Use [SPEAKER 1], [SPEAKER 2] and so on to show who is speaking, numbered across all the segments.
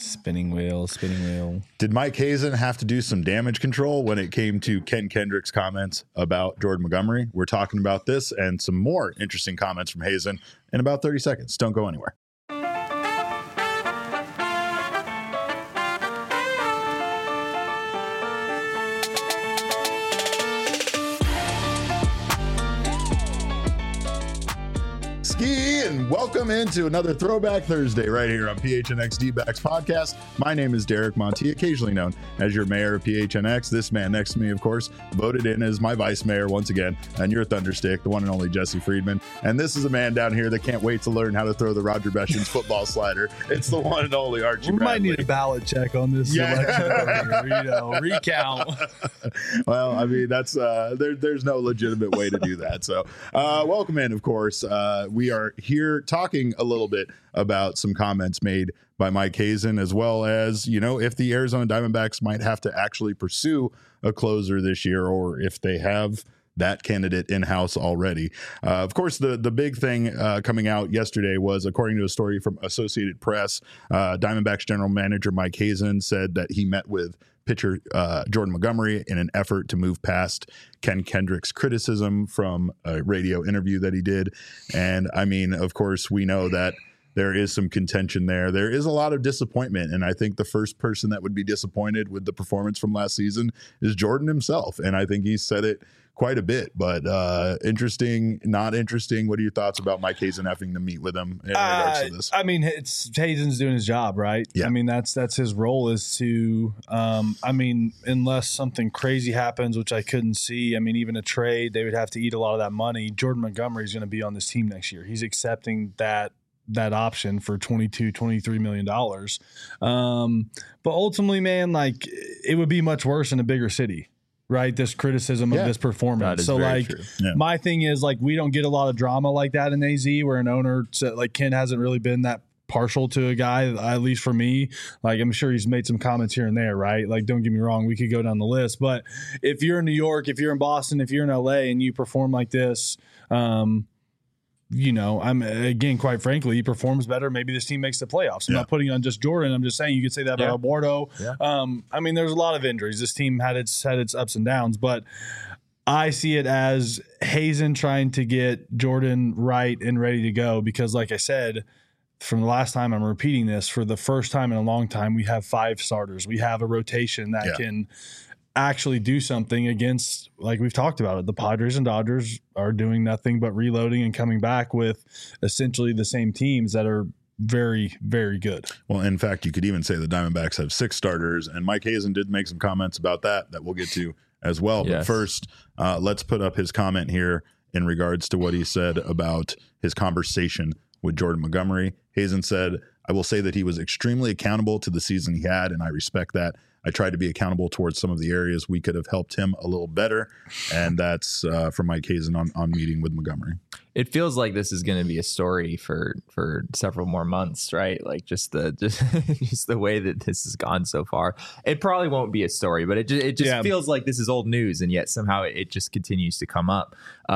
[SPEAKER 1] Spinning wheel.
[SPEAKER 2] Did Mike Hazen have to do some damage control when it came to Ken Kendrick's comments about Jordan Montgomery? We're talking about this and some more interesting comments from Hazen in about 30 seconds. Don't go anywhere. And welcome into another Throwback Thursday right here on PHNX D-Backs podcast. My name is Derek Monty, occasionally known as your mayor of PHNX. This man next to me, of course, voted in as my vice mayor once again, and your thunderstick, the one and only Jesse Friedman. And this is a man down here that can't wait to learn how to throw the Roger Beshens football slider. It's the one and only Archie
[SPEAKER 1] We
[SPEAKER 2] Bradley.
[SPEAKER 1] might need a ballot check on this election, recount.
[SPEAKER 2] Well, I mean, that's there's no legitimate way to do that. So welcome in, of course. We are here talking a little bit about some comments made by Mike Hazen, as well as, you know, if the Arizona Diamondbacks might have to actually pursue a closer this year, or if they have that candidate in-house already. Of course, the big thing coming out yesterday was, according to a story from Associated Press, Diamondbacks general manager Mike Hazen said that he met with pitcher Jordan Montgomery in an effort to move past Ken Kendrick's criticism from a radio interview that he did. And I mean, of course, we know that there is some contention there. There is a lot of disappointment. And I think the first person that would be disappointed with the performance from last season is Jordan himself. And I think he said it quite a bit, but interesting, not interesting. What are your thoughts about Mike Hazen having to meet with him in regards to this?
[SPEAKER 1] I mean, it's Hazen's doing his job, right?
[SPEAKER 2] Yeah.
[SPEAKER 1] I mean, that's his role, is to, I mean, unless something crazy happens, which I couldn't see. I mean, even a trade, they would have to eat a lot of that money. Jordan Montgomery is going to be on this team next year. He's accepting that option for $22-23 million. But ultimately, man, like, it would be much worse in a bigger city. Right, this criticism of this performance. So, like, my thing is, like, we don't get a lot of drama like that in AZ, where an owner, like Ken, hasn't really been that partial to a guy, at least for me. Like, I'm sure he's made some comments here and there, right? Like, don't get me wrong, we could go down the list. But if you're in New York, if you're in Boston, if you're in LA and you perform like this, you know, again, quite frankly, he performs better. Maybe this team makes the playoffs. I'm not putting on just Jordan. I'm just saying you could say that about Eduardo. I mean, there's a lot of injuries. This team had its ups and downs, but I see it as Hazen trying to get Jordan right and ready to go, because, like I said, from the last time, I'm repeating this, for the first time in a long time, we have 5 starters. We have a rotation that can actually do something against, like we've talked about it, the Padres and Dodgers are doing nothing but reloading and coming back with essentially the same teams that are very, very good.
[SPEAKER 2] Well, in fact, you could even say the Diamondbacks have 6 starters, and Mike Hazen did make some comments about that we'll get to as well. But first, let's put up his comment here in regards to what he said about his conversation with Jordan Montgomery. Hazen said, "I will say that he was extremely accountable to the season he had, and I respect that. I tried to be accountable towards some of the areas we could have helped him a little better." And that's from Mike Hazen on meeting with Montgomery.
[SPEAKER 3] It feels like this is going to be a story for several more months, right? Like just the way that this has gone so far. It probably won't be a story, but it just feels like this is old news, and yet somehow it just continues to come up.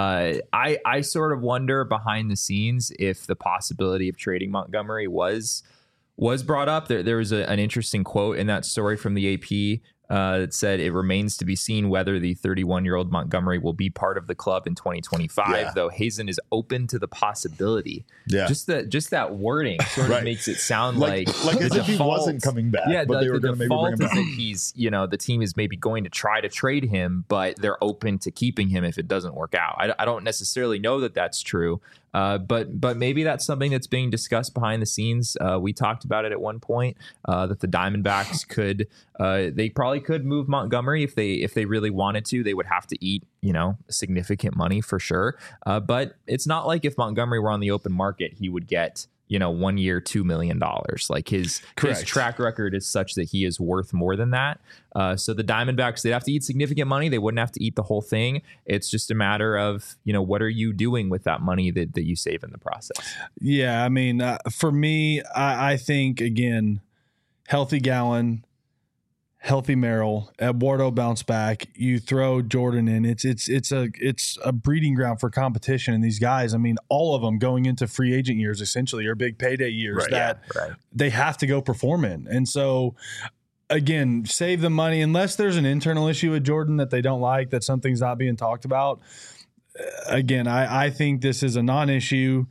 [SPEAKER 3] I sort of wonder behind the scenes if the possibility of trading Montgomery was brought up. There was an interesting quote in that story from the AP that said, "It remains to be seen whether the 31-year-old Montgomery will be part of the club in 2025, though Hazen is open to the possibility." Just that wording sort of makes it sound like
[SPEAKER 2] as if he wasn't coming back. But they were going to maybe bring him back.
[SPEAKER 3] That he's, you know, the team is maybe going to try to trade him, but they're open to keeping him if it doesn't work out. I don't necessarily know that that's true. But maybe that's something that's being discussed behind the scenes. We talked about it at one point, that the Diamondbacks they probably could move Montgomery if they really wanted to. They would have to eat, you know, significant money for sure. But it's not like if Montgomery were on the open market, he would get, you know, 1 year, $2 million. Like his track record is such that he is worth more than that. So the Diamondbacks, they'd have to eat significant money. They wouldn't have to eat the whole thing. It's just a matter of, you know, what are you doing with that money that you save in the process?
[SPEAKER 1] Yeah, I mean, for me, I think, again, healthy Gallen, healthy Merrill, Eduardo bounce back, you throw Jordan in. It's a breeding ground for competition. And these guys, I mean, all of them going into free agent years essentially are big payday years they have to go perform in. And so again, save the money unless there's an internal issue with Jordan that they don't like, that something's not being talked about. Again, I think this is a non-issue.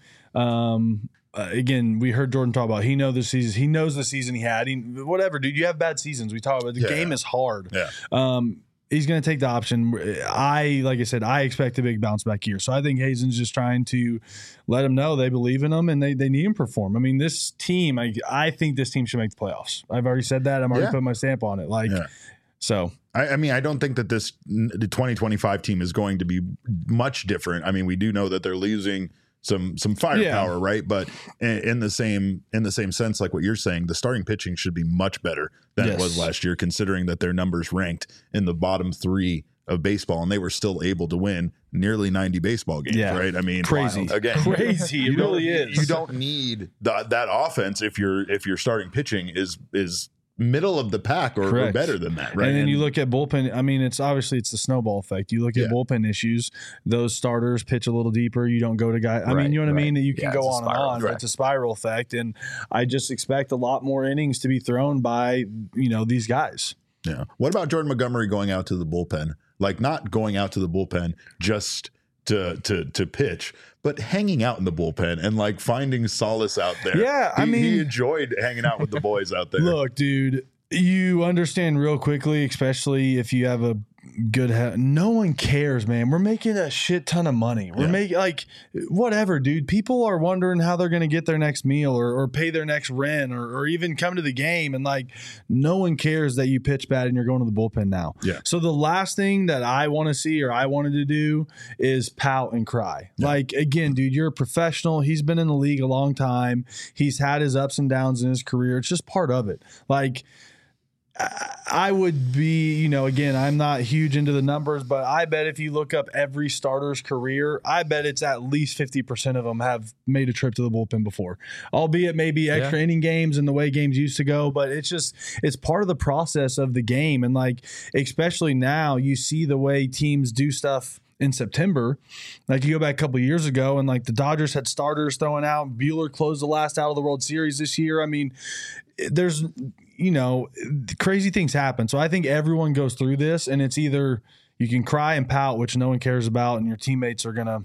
[SPEAKER 1] Again, we heard Jordan talk about he knows the season he had. Whatever, dude. You have bad seasons. We talk about the game is hard.
[SPEAKER 2] Yeah.
[SPEAKER 1] He's going to take the option. Like I said, I expect a big bounce back year. So I think Hazen's just trying to let him know they believe in him and they need him to perform. I mean, this team, I think this team should make the playoffs. I've already said that. I'm already putting my stamp on it. So.
[SPEAKER 2] I mean, I don't think that the 2025 team is going to be much different. I mean, we do know that they're losing some firepower, right? But in the same sense, like what you're saying, the starting pitching should be much better than it was last year, considering that their numbers ranked in the bottom 3 of baseball, and they were still able to win nearly 90 baseball games, right? I mean,
[SPEAKER 1] crazy.
[SPEAKER 2] Again,
[SPEAKER 1] crazy. It really is.
[SPEAKER 2] You don't need that offense if your starting pitching is middle of the pack or better than that, right?
[SPEAKER 1] And then you look at bullpen. I mean, it's the snowball effect. You look at bullpen issues. Those starters pitch a little deeper. You don't go to guys. I mean, you know what I mean? That you can go on and on. Right. It's a spiral effect, and I just expect a lot more innings to be thrown by these guys.
[SPEAKER 2] Yeah. What about Jordan Montgomery going out to the bullpen? Like not going out to the bullpen just to pitch, but hanging out in the bullpen and like finding solace out there.
[SPEAKER 1] Yeah, I mean,
[SPEAKER 2] he enjoyed hanging out with the boys out there.
[SPEAKER 1] Look, dude, you understand real quickly, especially if you have a good no one cares, man. We're making a shit ton of money. We're making whatever, dude. People are wondering how they're going to get their next meal or pay their next rent or even come to the game. And no one cares that you pitch bad and you're going to the bullpen now.
[SPEAKER 2] Yeah.
[SPEAKER 1] So the last thing that I want to see or I wanted to do is pout and cry. Yeah. Again, dude, you're a professional. He's been in the league a long time. He's had his ups and downs in his career. It's just part of it. I would be, again, I'm not huge into the numbers, but I bet if you look up every starter's career, I bet it's at least 50% of them have made a trip to the bullpen before, albeit maybe extra inning games and the way games used to go. But it's part of the process of the game. And especially now you see the way teams do stuff in September. You go back a couple of years ago and the Dodgers had starters throwing out. Buehler closed the last out of the World Series this year. I mean, there's, crazy things happen. So I think everyone goes through this and it's either you can cry and pout, which no one cares about, and your teammates are going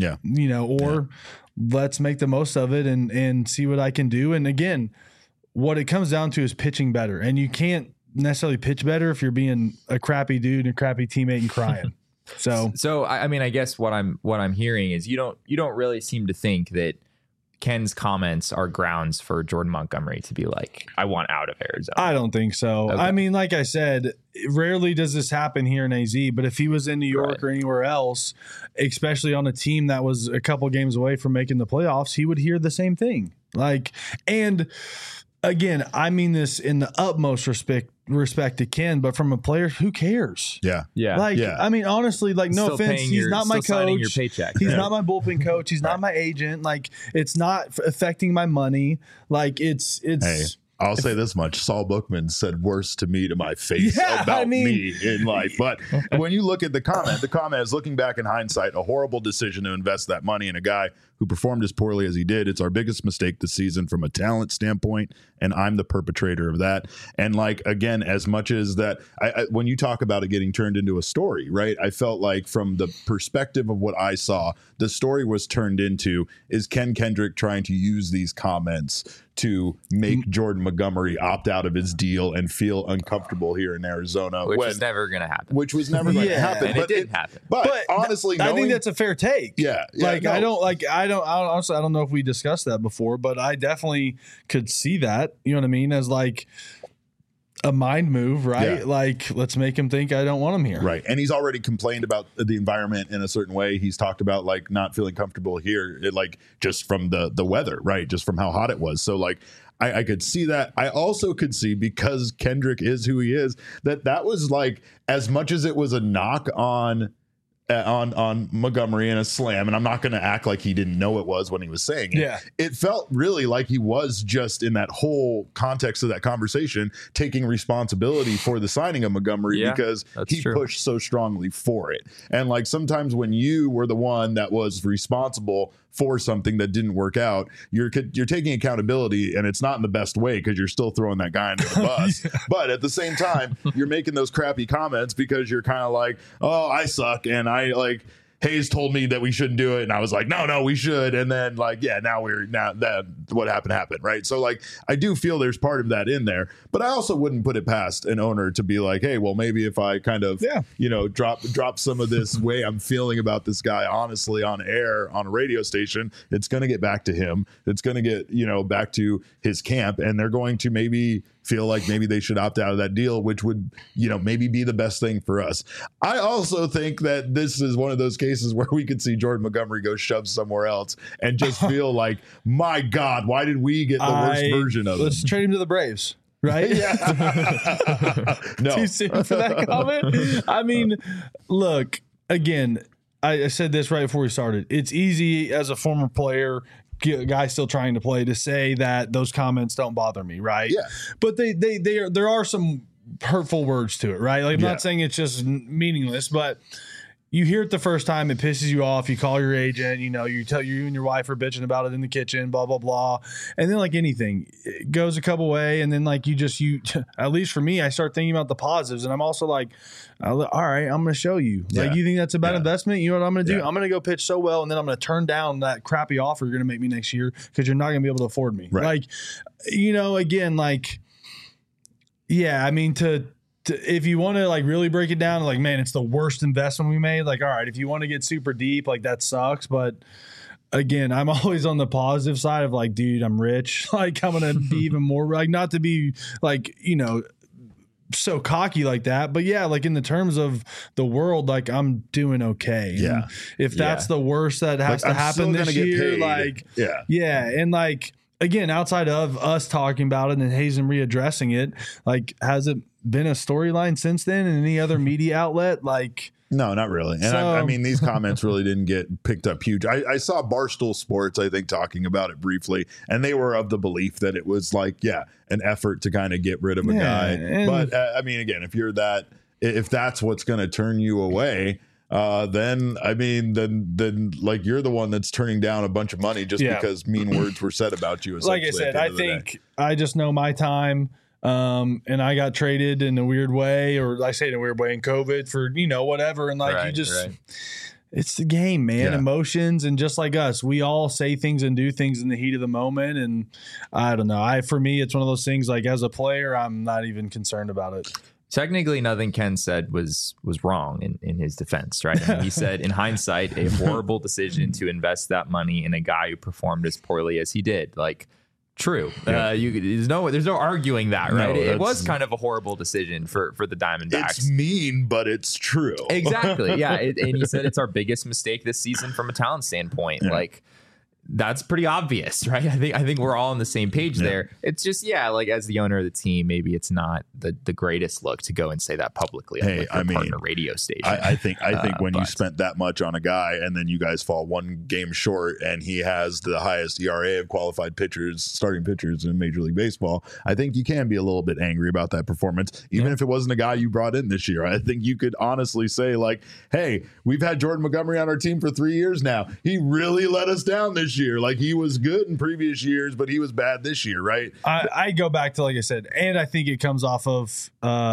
[SPEAKER 1] to, let's make the most of it and see what I can do. And again, what it comes down to is pitching better. And you can't necessarily pitch better if you're being a crappy dude and a crappy teammate and crying. So
[SPEAKER 3] I mean, I guess what I'm hearing is you don't really seem to think that Ken's comments are grounds for Jordan Montgomery to be I want out of Arizona.
[SPEAKER 1] I don't think so. Okay. I mean, like I said, rarely does this happen here in AZ, but if he was in New York or anywhere else, especially on a team that was a couple games away from making the playoffs, he would hear the same thing. And again, I mean this in the utmost respect to Ken, but from a player, who cares?
[SPEAKER 2] Yeah.
[SPEAKER 1] I mean, honestly, no offense, he's not my coach.
[SPEAKER 3] Your paycheck.
[SPEAKER 1] He's not my bullpen coach. He's not my agent. It's not affecting my money. It's.
[SPEAKER 2] Hey, I'll say this much: Saul Bookman said worse to me to my face about me in life. But when you look at the comment is looking back in hindsight, a horrible decision to invest that money in a guy who performed as poorly as he did. It's our biggest mistake this season from a talent standpoint, and I'm the perpetrator of that. And again, as much as that, when you talk about it getting turned into a story, right? I felt from the perspective of what I saw, the story was turned into is Ken Kendrick trying to use these comments to make Jordan Montgomery opt out of his deal and feel uncomfortable here in Arizona,
[SPEAKER 3] which was never going to happen.
[SPEAKER 2] Which was never going to happen,
[SPEAKER 3] but it didn't happen.
[SPEAKER 2] But honestly,
[SPEAKER 1] I think that's a fair take.
[SPEAKER 2] Yeah.
[SPEAKER 1] Honestly, I don't know if we discussed that before, but I definitely could see that. You know what I mean? As a mind move, right?
[SPEAKER 2] Yeah.
[SPEAKER 1] Let's make him think I don't want him here.
[SPEAKER 2] Right. And he's already complained about the environment in a certain way. He's talked about not feeling comfortable here, just from the weather, right? Just from how hot it was. So I could see that. I also could see, because Kendrick is who he is, that was as much as it was a knock on on Montgomery in a slam, and I'm not going to act like he didn't know it was when he was saying it.
[SPEAKER 1] Yeah.
[SPEAKER 2] It felt really like he was just in that whole context of that conversation taking responsibility for the signing of Montgomery because he pushed so strongly for it. And like sometimes when you were the one that was responsible for something that didn't work out, you're taking accountability, and it's not in the best way because you're still throwing that guy under the bus. But at the same time, you're making those crappy comments because you're kind of like, oh, I suck, and I like Hayes told me that we shouldn't do it, and I was like, no, we should. And then like, yeah, now that what happened, right? So like, I do feel there's part of that in there, but I also wouldn't put it past an owner to be like, hey, well, maybe if I kind of, drop some of this way I'm feeling about this guy honestly on air on a radio station, it's going to get back to him. It's going to get back to his camp, and they're going to maybe feel like maybe they should opt out of that deal, which would, maybe be the best thing for us. I also think that this is one of those cases where we could see Jordan Montgomery go shove somewhere else and just feel like, my God, why did we get the worst version of
[SPEAKER 1] Let's trade him to the Braves. Right?
[SPEAKER 2] No.
[SPEAKER 1] Too soon for that comment. I mean, look, again, I said this right before we started. It's easy as a former player, guy still trying to play, to say that those comments don't bother me, right?
[SPEAKER 2] Yeah.
[SPEAKER 1] But there are some hurtful words to it, right? Like I'm not saying it's just meaningless, but you hear it the first time, it pisses you off. You call your agent, you tell you and your wife are bitching about it in the kitchen, blah, blah, blah. And then like anything, it goes a couple way. And then like you at least for me, I start thinking about the positives. And I'm also like, all right, I'm going to show you. Like, you think that's a bad investment? You know what I'm going to do? I'm going to go pitch so well, and then I'm going to turn down that crappy offer you're going to make me next year because you're not going to be able to afford me.
[SPEAKER 2] Right.
[SPEAKER 1] Like, again, like, yeah, I mean, if you want to like really break it down, like, man, it's the worst investment we made. Like, all right, if you want to get super deep, like that sucks. But again, I'm always on the positive side of like, dude, I'm rich. Like I'm going to be even more like, not to be like, so cocky like that, but yeah, like in the terms of the world, like I'm doing okay.
[SPEAKER 2] Yeah.
[SPEAKER 1] And if that's the worst that has to happen this year, like, and like, again, outside of us talking about it and Hazen readdressing it, like, has it been a storyline since then in any other media outlet? Like,
[SPEAKER 2] no, not really. And I mean, these comments really didn't get picked up huge. I saw Barstool Sports, I think, talking about it briefly, and they were of the belief that it was like, an effort to kind of get rid of a guy. But I mean, again, if that's what's going to turn you away, then like you're the one that's turning down a bunch of money just because mean words were said about you.
[SPEAKER 1] Like I said, I think I just know my time. And I got traded in a weird way, or I say in a weird way in COVID for, whatever. And like, it's the game, man, emotions. And just like us, we all say things and do things in the heat of the moment. And I don't know. For me, it's one of those things like as a player, I'm not even concerned about it.
[SPEAKER 3] Technically, nothing Ken said was wrong in his defense, right? I mean, he said, in hindsight, a horrible decision to invest that money in a guy who performed as poorly as he did. Like, true. There's no arguing that, right?
[SPEAKER 2] No,
[SPEAKER 3] it was kind of a horrible decision for the Diamondbacks.
[SPEAKER 2] It's mean, but it's true.
[SPEAKER 3] Exactly. Yeah. And he said it's our biggest mistake this season from a talent standpoint. Yeah. Like, that's pretty obvious, right? I think we're all on the same page there. It's just, like as the owner of the team, maybe it's not the greatest look to go and say that publicly on your partner radio station.
[SPEAKER 2] I think when you spent that much on a guy and then you guys fall one game short and he has the highest ERA of qualified pitchers, starting pitchers in Major League Baseball, I think you can be a little bit angry about that performance, even if it wasn't a guy you brought in this year. I think you could honestly say like, hey, we've had Jordan Montgomery on our team for 3 years now. He really let us down this year. Like, he was good in previous years, but he was bad this year, right?
[SPEAKER 1] I go back to, like I said, and I think it comes off of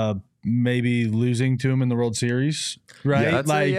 [SPEAKER 1] maybe losing to him in the World Series, right?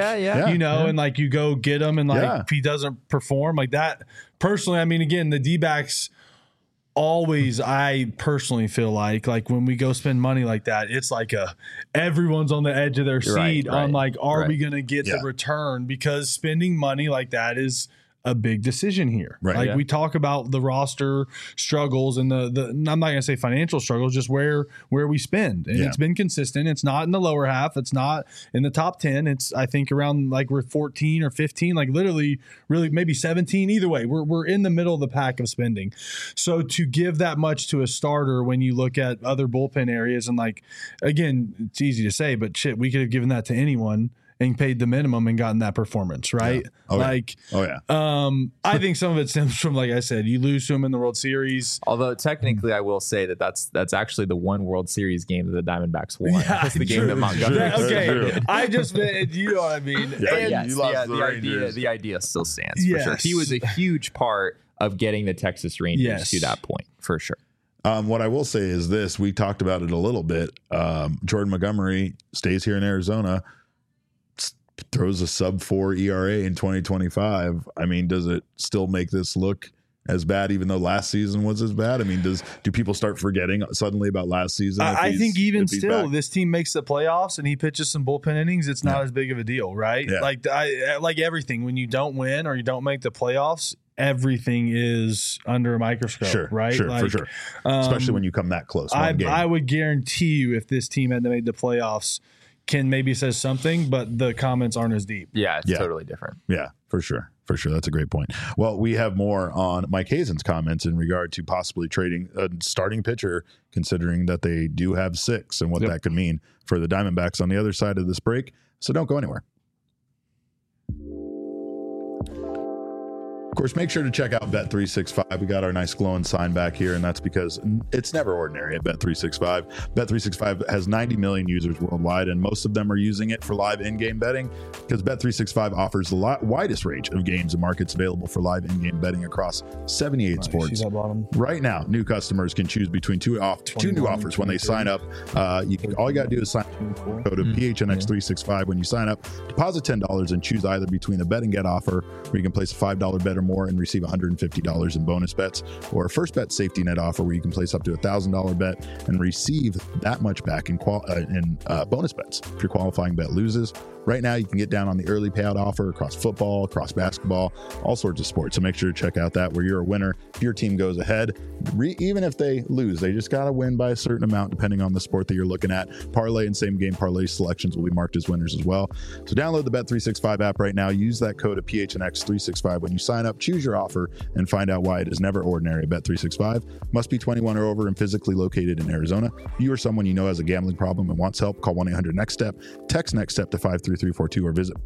[SPEAKER 1] And like you go get him, and like if he doesn't perform like that, personally, I mean, again, the D-backs always, I personally feel like when we go spend money like that, it's like everyone's on the edge of their seat on like, are we going to get the return? Because spending money like that is a big decision here. Right. Like we talk about the roster struggles and the I'm not going to say financial struggles, just where we spend. And it's been consistent. It's not in the lower half. It's not in the top 10. It's, I think, around like we're 14 or 15, like literally really maybe 17. Either way, we're in the middle of the pack of spending. So to give that much to a starter when you look at other bullpen areas, and like, again, it's easy to say, but shit, we could have given that to anyone. and paid the minimum and gotten that performance, right?
[SPEAKER 2] Yeah. Oh,
[SPEAKER 1] like,
[SPEAKER 2] yeah.
[SPEAKER 1] I think some of it stems from, like I said, you lose to him in the World Series.
[SPEAKER 3] Although technically, I will say that's actually the one World Series game that the Diamondbacks won.
[SPEAKER 1] Yeah,
[SPEAKER 3] That's the game
[SPEAKER 1] true.
[SPEAKER 3] that Montgomery.
[SPEAKER 1] Okay, I just meant, you know what I mean.
[SPEAKER 2] Yeah,
[SPEAKER 1] And-
[SPEAKER 3] Yes,
[SPEAKER 2] you lost the
[SPEAKER 3] idea,
[SPEAKER 2] Rangers.
[SPEAKER 3] the idea still stands for sure.
[SPEAKER 1] Yes.
[SPEAKER 3] He was a huge part of getting the Texas Rangers
[SPEAKER 1] Yes.
[SPEAKER 3] to that point, for sure.
[SPEAKER 2] What I will say is this: we talked about it a little bit. Jordan Montgomery stays here in Arizona, throws a sub-4 ERA in 2025. I mean, does it still make this look as bad, even though last season was as bad? I mean, do people start forgetting suddenly about last season?
[SPEAKER 1] I think even
[SPEAKER 2] if he's
[SPEAKER 1] still,
[SPEAKER 2] back?
[SPEAKER 1] this team makes the playoffs and he pitches some bullpen innings, it's not as big of a deal, right?
[SPEAKER 2] Yeah.
[SPEAKER 1] Like everything, when you don't win or you don't make the playoffs, everything is under a microscope,
[SPEAKER 2] Sure,
[SPEAKER 1] right?
[SPEAKER 2] sure,
[SPEAKER 1] like,
[SPEAKER 2] for sure. Especially when you come that close. One game.
[SPEAKER 1] I would guarantee you, if this team had made the playoffs, Ken maybe says something, but the comments aren't as deep.
[SPEAKER 3] Yeah, it's
[SPEAKER 2] Yeah.
[SPEAKER 3] totally different.
[SPEAKER 2] Yeah, for sure. For sure. That's a great point. Well, we have more on Mike Hazen's comments in regard to possibly trading a starting pitcher, considering that they do have 6 and what that could mean for the Diamondbacks on the other side of this break. So don't go anywhere. Of course, make sure to check out Bet365. We got our nice glowing sign back here, and that's because it's never ordinary at Bet365. Bet365 has 90 million users worldwide, and most of them are using it for live in-game betting because Bet365 offers the widest range of games and markets available for live in-game betting across 78 sports. Right now, new customers can choose between two new offers when they sign up. All you got to do is sign up, go to PHNX365 when you sign up, deposit $10 and choose either between a bet and get offer where you can place a $5 bet or more and receive $150 in bonus bets, or a first bet safety net offer where you can place up to $1,000 bet and receive that much back in bonus bets if your qualifying bet loses. Right now, you can get down on the early payout offer across football, across basketball, all sorts of sports. So make sure to check out that where you're a winner. If your team goes ahead, even if they lose, they just got to win by a certain amount depending on the sport that you're looking at. Parlay and same game parlay selections will be marked as winners as well. So download the Bet365 app right now. Use that code of PHNX365 when you sign up. Choose your offer and find out why it is never ordinary at Bet365. Must be 21 or over and physically located in Arizona. If you or someone you know has a gambling problem and wants help, call 1-800-NEXT-STEP. Text NEXT STEP to 53342 or visit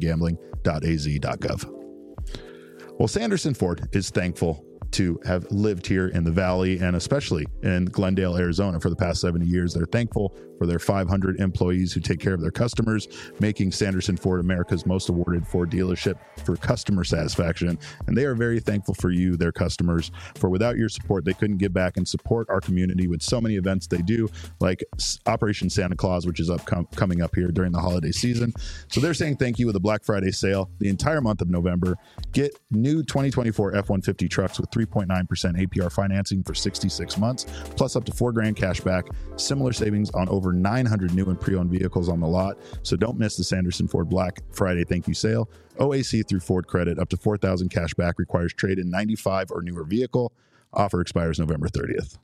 [SPEAKER 2] problemgambling.az.gov. Well, Sanderson Ford is thankful to have lived here in the Valley and especially in Glendale, Arizona for the past 70 years. They're thankful for their 500 employees who take care of their customers, making Sanderson Ford America's most awarded Ford dealership for customer satisfaction. And they are very thankful for you, their customers, for without your support, they couldn't give back and support our community with so many events they do, like Operation Santa Claus, which is coming up here during the holiday season. So they're saying thank you with a Black Friday sale the entire month of November. Get new 2024 F-150 trucks with 3.9% APR financing for 66 months, plus up to $4,000 cash back. Similar savings on over 900 new and pre-owned vehicles on the lot. So don't miss the Sanderson Ford Black Friday thank you sale. OAC through Ford Credit, up to $4,000 cash back, requires trade in 95 or newer vehicle. Offer expires November 30th.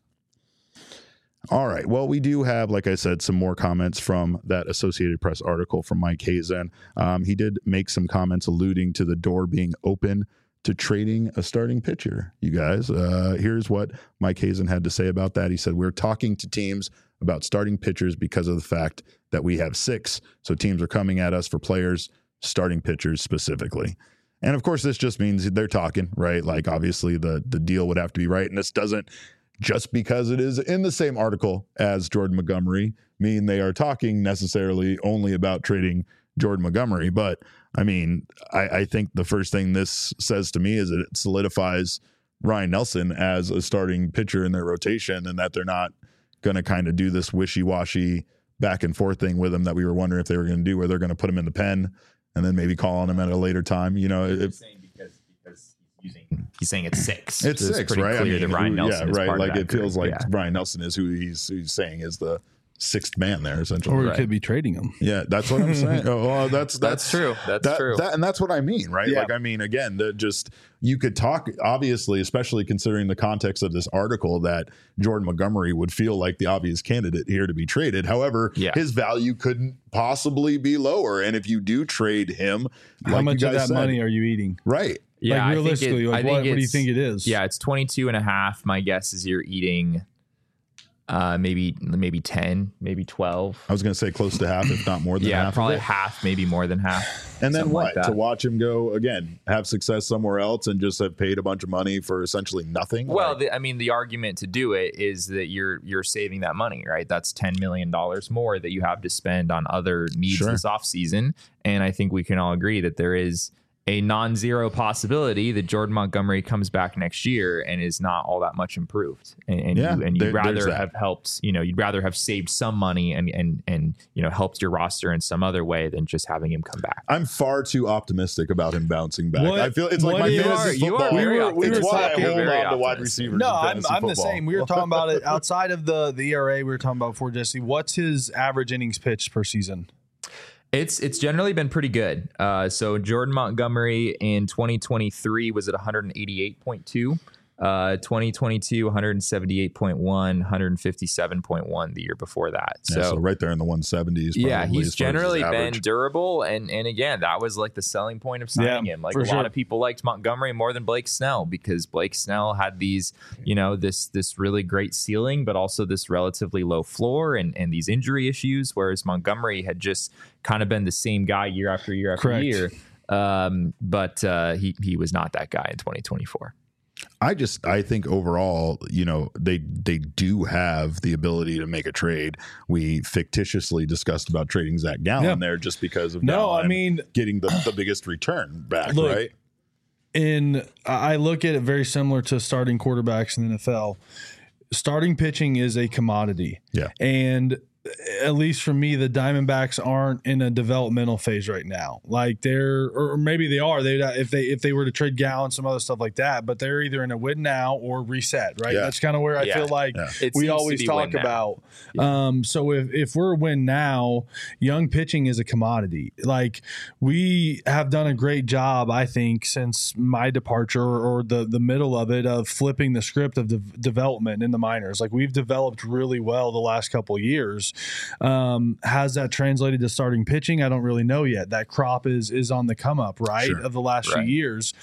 [SPEAKER 2] All right. Well, we do have, like I said, some more comments from that Associated Press article from Mike Hazen. He did make some comments alluding to the door being open to trading a starting pitcher. You guys, here's what Mike Hazen had to say about that. He said, we're talking to teams about starting pitchers because of the fact that we have 6. So teams are coming at us for players, starting pitchers specifically. And of course, this just means they're talking, right? Like obviously the deal would have to be right. And this doesn't, just because it is in the same article as Jordan Montgomery, mean they are talking necessarily only about trading Jordan Montgomery. But I mean, I think the first thing this says to me is that it solidifies Ryan Nelson as a starting pitcher in their rotation, and that they're not going to kind of do this wishy-washy back and forth thing with him that we were wondering if they were going to do, where they're going to put him in the pen and then maybe call on him at a later time. You know,
[SPEAKER 3] He's saying it's 6.
[SPEAKER 2] It's 6, right?
[SPEAKER 3] I mean, that Ryan Nelson is
[SPEAKER 2] right.
[SPEAKER 3] part of
[SPEAKER 2] Like
[SPEAKER 3] that
[SPEAKER 2] it feels
[SPEAKER 3] group.
[SPEAKER 2] like Ryan Nelson is who he's saying is the 6th man there, essentially.
[SPEAKER 1] Or we could be trading him.
[SPEAKER 2] Yeah, that's what I'm saying. Oh, well, that's
[SPEAKER 3] true. That's true.
[SPEAKER 2] And that's what I mean, right?
[SPEAKER 1] Yeah.
[SPEAKER 2] Like, I mean, again, you could talk, obviously, especially considering the context of this article, that Jordan Montgomery would feel like the obvious candidate here to be traded. However, his value couldn't possibly be lower. And if you do trade him,
[SPEAKER 1] how
[SPEAKER 2] like
[SPEAKER 1] much
[SPEAKER 2] you
[SPEAKER 1] of
[SPEAKER 2] guys
[SPEAKER 1] that
[SPEAKER 2] said,
[SPEAKER 1] money are you eating?
[SPEAKER 2] Right.
[SPEAKER 3] Yeah,
[SPEAKER 1] like realistically, what do you think it is?
[SPEAKER 3] Yeah, it's 22.5. My guess is you're eating maybe 10, maybe 12.
[SPEAKER 2] I was going to say close to half, if not more than half.
[SPEAKER 3] Probably
[SPEAKER 2] of it.
[SPEAKER 3] half, maybe more than half.
[SPEAKER 2] And then
[SPEAKER 3] something
[SPEAKER 2] what?
[SPEAKER 3] like
[SPEAKER 2] To
[SPEAKER 3] that.
[SPEAKER 2] watch him go again, have success somewhere else, and just have paid a bunch of money for essentially nothing.
[SPEAKER 3] Well, the argument to do it is that you're saving that money, right? That's $10 million more that you have to spend on other needs this offseason. And I think we can all agree that there is a non-zero possibility that Jordan Montgomery comes back next year and is not all that much improved. And you'd rather have helped, you'd rather have saved some money and helped your roster in some other way than just having him come back.
[SPEAKER 2] I'm far too optimistic about him bouncing back. I feel it's like my fantasy
[SPEAKER 3] you
[SPEAKER 2] football.
[SPEAKER 3] are
[SPEAKER 2] It's why I
[SPEAKER 3] You're
[SPEAKER 2] hold
[SPEAKER 3] very
[SPEAKER 2] on to wide
[SPEAKER 3] optimistic.
[SPEAKER 2] receivers.
[SPEAKER 1] No,
[SPEAKER 2] in
[SPEAKER 1] I'm
[SPEAKER 2] fantasy
[SPEAKER 1] the
[SPEAKER 2] football.
[SPEAKER 1] same. We were talking about it outside of the ERA. We were talking about before, Jesse. What's his average innings pitched per season?
[SPEAKER 3] It's generally been pretty good. So Jordan Montgomery in 2023 was at 188.2. 2022, 178.1, 157.1 the year before that.
[SPEAKER 2] So right there in the 170s.
[SPEAKER 3] Yeah,
[SPEAKER 2] probably,
[SPEAKER 3] he's generally been
[SPEAKER 2] average.
[SPEAKER 3] durable. And again, that was like the selling point of signing him. Like a lot of people liked Montgomery more than Blake Snell because Blake Snell had these, this really great ceiling, but also this relatively low floor and these injury issues. Whereas Montgomery had just kind of been the same guy year after year after year. But he was not that guy in 2024.
[SPEAKER 2] I think overall, they do have the ability to make a trade. We fictitiously discussed about trading Zach Gallen there just because of Gallen getting the biggest return back, right?
[SPEAKER 1] I look at it very similar to starting quarterbacks in the NFL. Starting pitching is a commodity.
[SPEAKER 2] Yeah.
[SPEAKER 1] And at least for me, the Diamondbacks aren't in a developmental phase right now. Like or maybe they are. If they were to trade Gallen, some other stuff like that, but they're either in a win now or reset, right?
[SPEAKER 2] Yeah.
[SPEAKER 1] That's kind of where I feel like we always talk about. So if we're a win now, young pitching is a commodity. Like we have done a great job, I think, since my departure or the middle of it of flipping the script of the development in the minors. Like we've developed really well the last couple of years. Has that translated to starting pitching? I don't really know yet. That crop is on the come up, right?
[SPEAKER 2] Sure.
[SPEAKER 1] Of the last few years.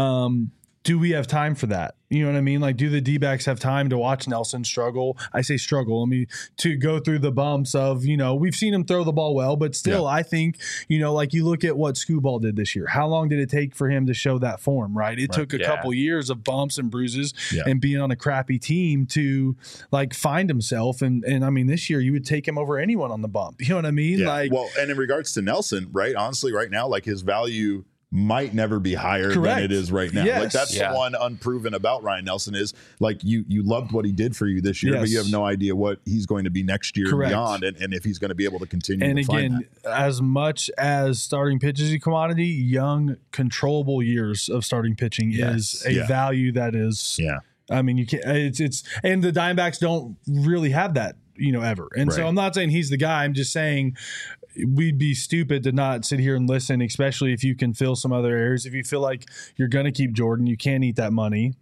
[SPEAKER 1] Do we have time for that? You know what I mean? Like, do the D-backs have time to watch Nelson struggle? I say struggle. I mean, to go through the bumps of, we've seen him throw the ball well, but still, I think, like you look at what Skubal did this year. How long did it take for him to show that form, right? It took a couple years of bumps and bruises and being on a crappy team to, like, find himself. And I mean, this year, you would take him over anyone on the bump. You know what I mean?
[SPEAKER 2] Yeah.
[SPEAKER 1] Like,
[SPEAKER 2] well, and in regards to Nelson, right, honestly, right now, like his value might never be higher than it is right now.
[SPEAKER 1] Yes.
[SPEAKER 2] Like that's the one unproven about Ryan Nelson is like you loved what he did for you this year, but you have no idea what he's going to be next year and beyond, and if he's going to be able to continue.
[SPEAKER 1] And
[SPEAKER 2] to
[SPEAKER 1] again,
[SPEAKER 2] find that.
[SPEAKER 1] as much as starting pitch is a commodity, young, controllable years of starting pitching is a value that is.
[SPEAKER 2] Yeah.
[SPEAKER 1] I mean, you can't. It's and the Diamondbacks don't really have that, ever. And so I'm not saying he's the guy. I'm just saying we'd be stupid to not sit here and listen, especially if you can fill some other areas. If you feel like you're going to keep Jordan, you can't eat that money.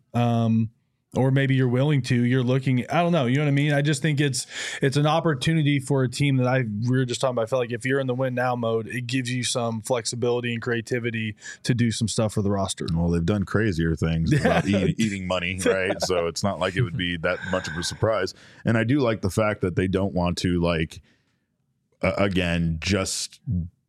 [SPEAKER 1] Or maybe you're willing to, you're looking, I don't know. You know what I mean? I just think it's an opportunity for a team that we were just talking about. I feel like if you're in the win now mode, it gives you some flexibility and creativity to do some stuff for the roster.
[SPEAKER 2] Well, they've done crazier things about eating money, right? So it's not like it would be that much of a surprise. And I do like the fact that they don't want to again, just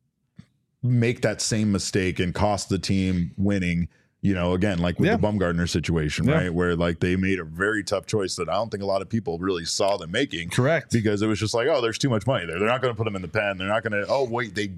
[SPEAKER 2] make that same mistake and cost the team winning, again, like with the Bumgarner situation, right? Where like they made a very tough choice that I don't think a lot of people really saw them making.
[SPEAKER 1] Correct.
[SPEAKER 2] Because it was just like, oh, there's too much money there. They're not going to put them in the pen. They're not going to, oh, wait, they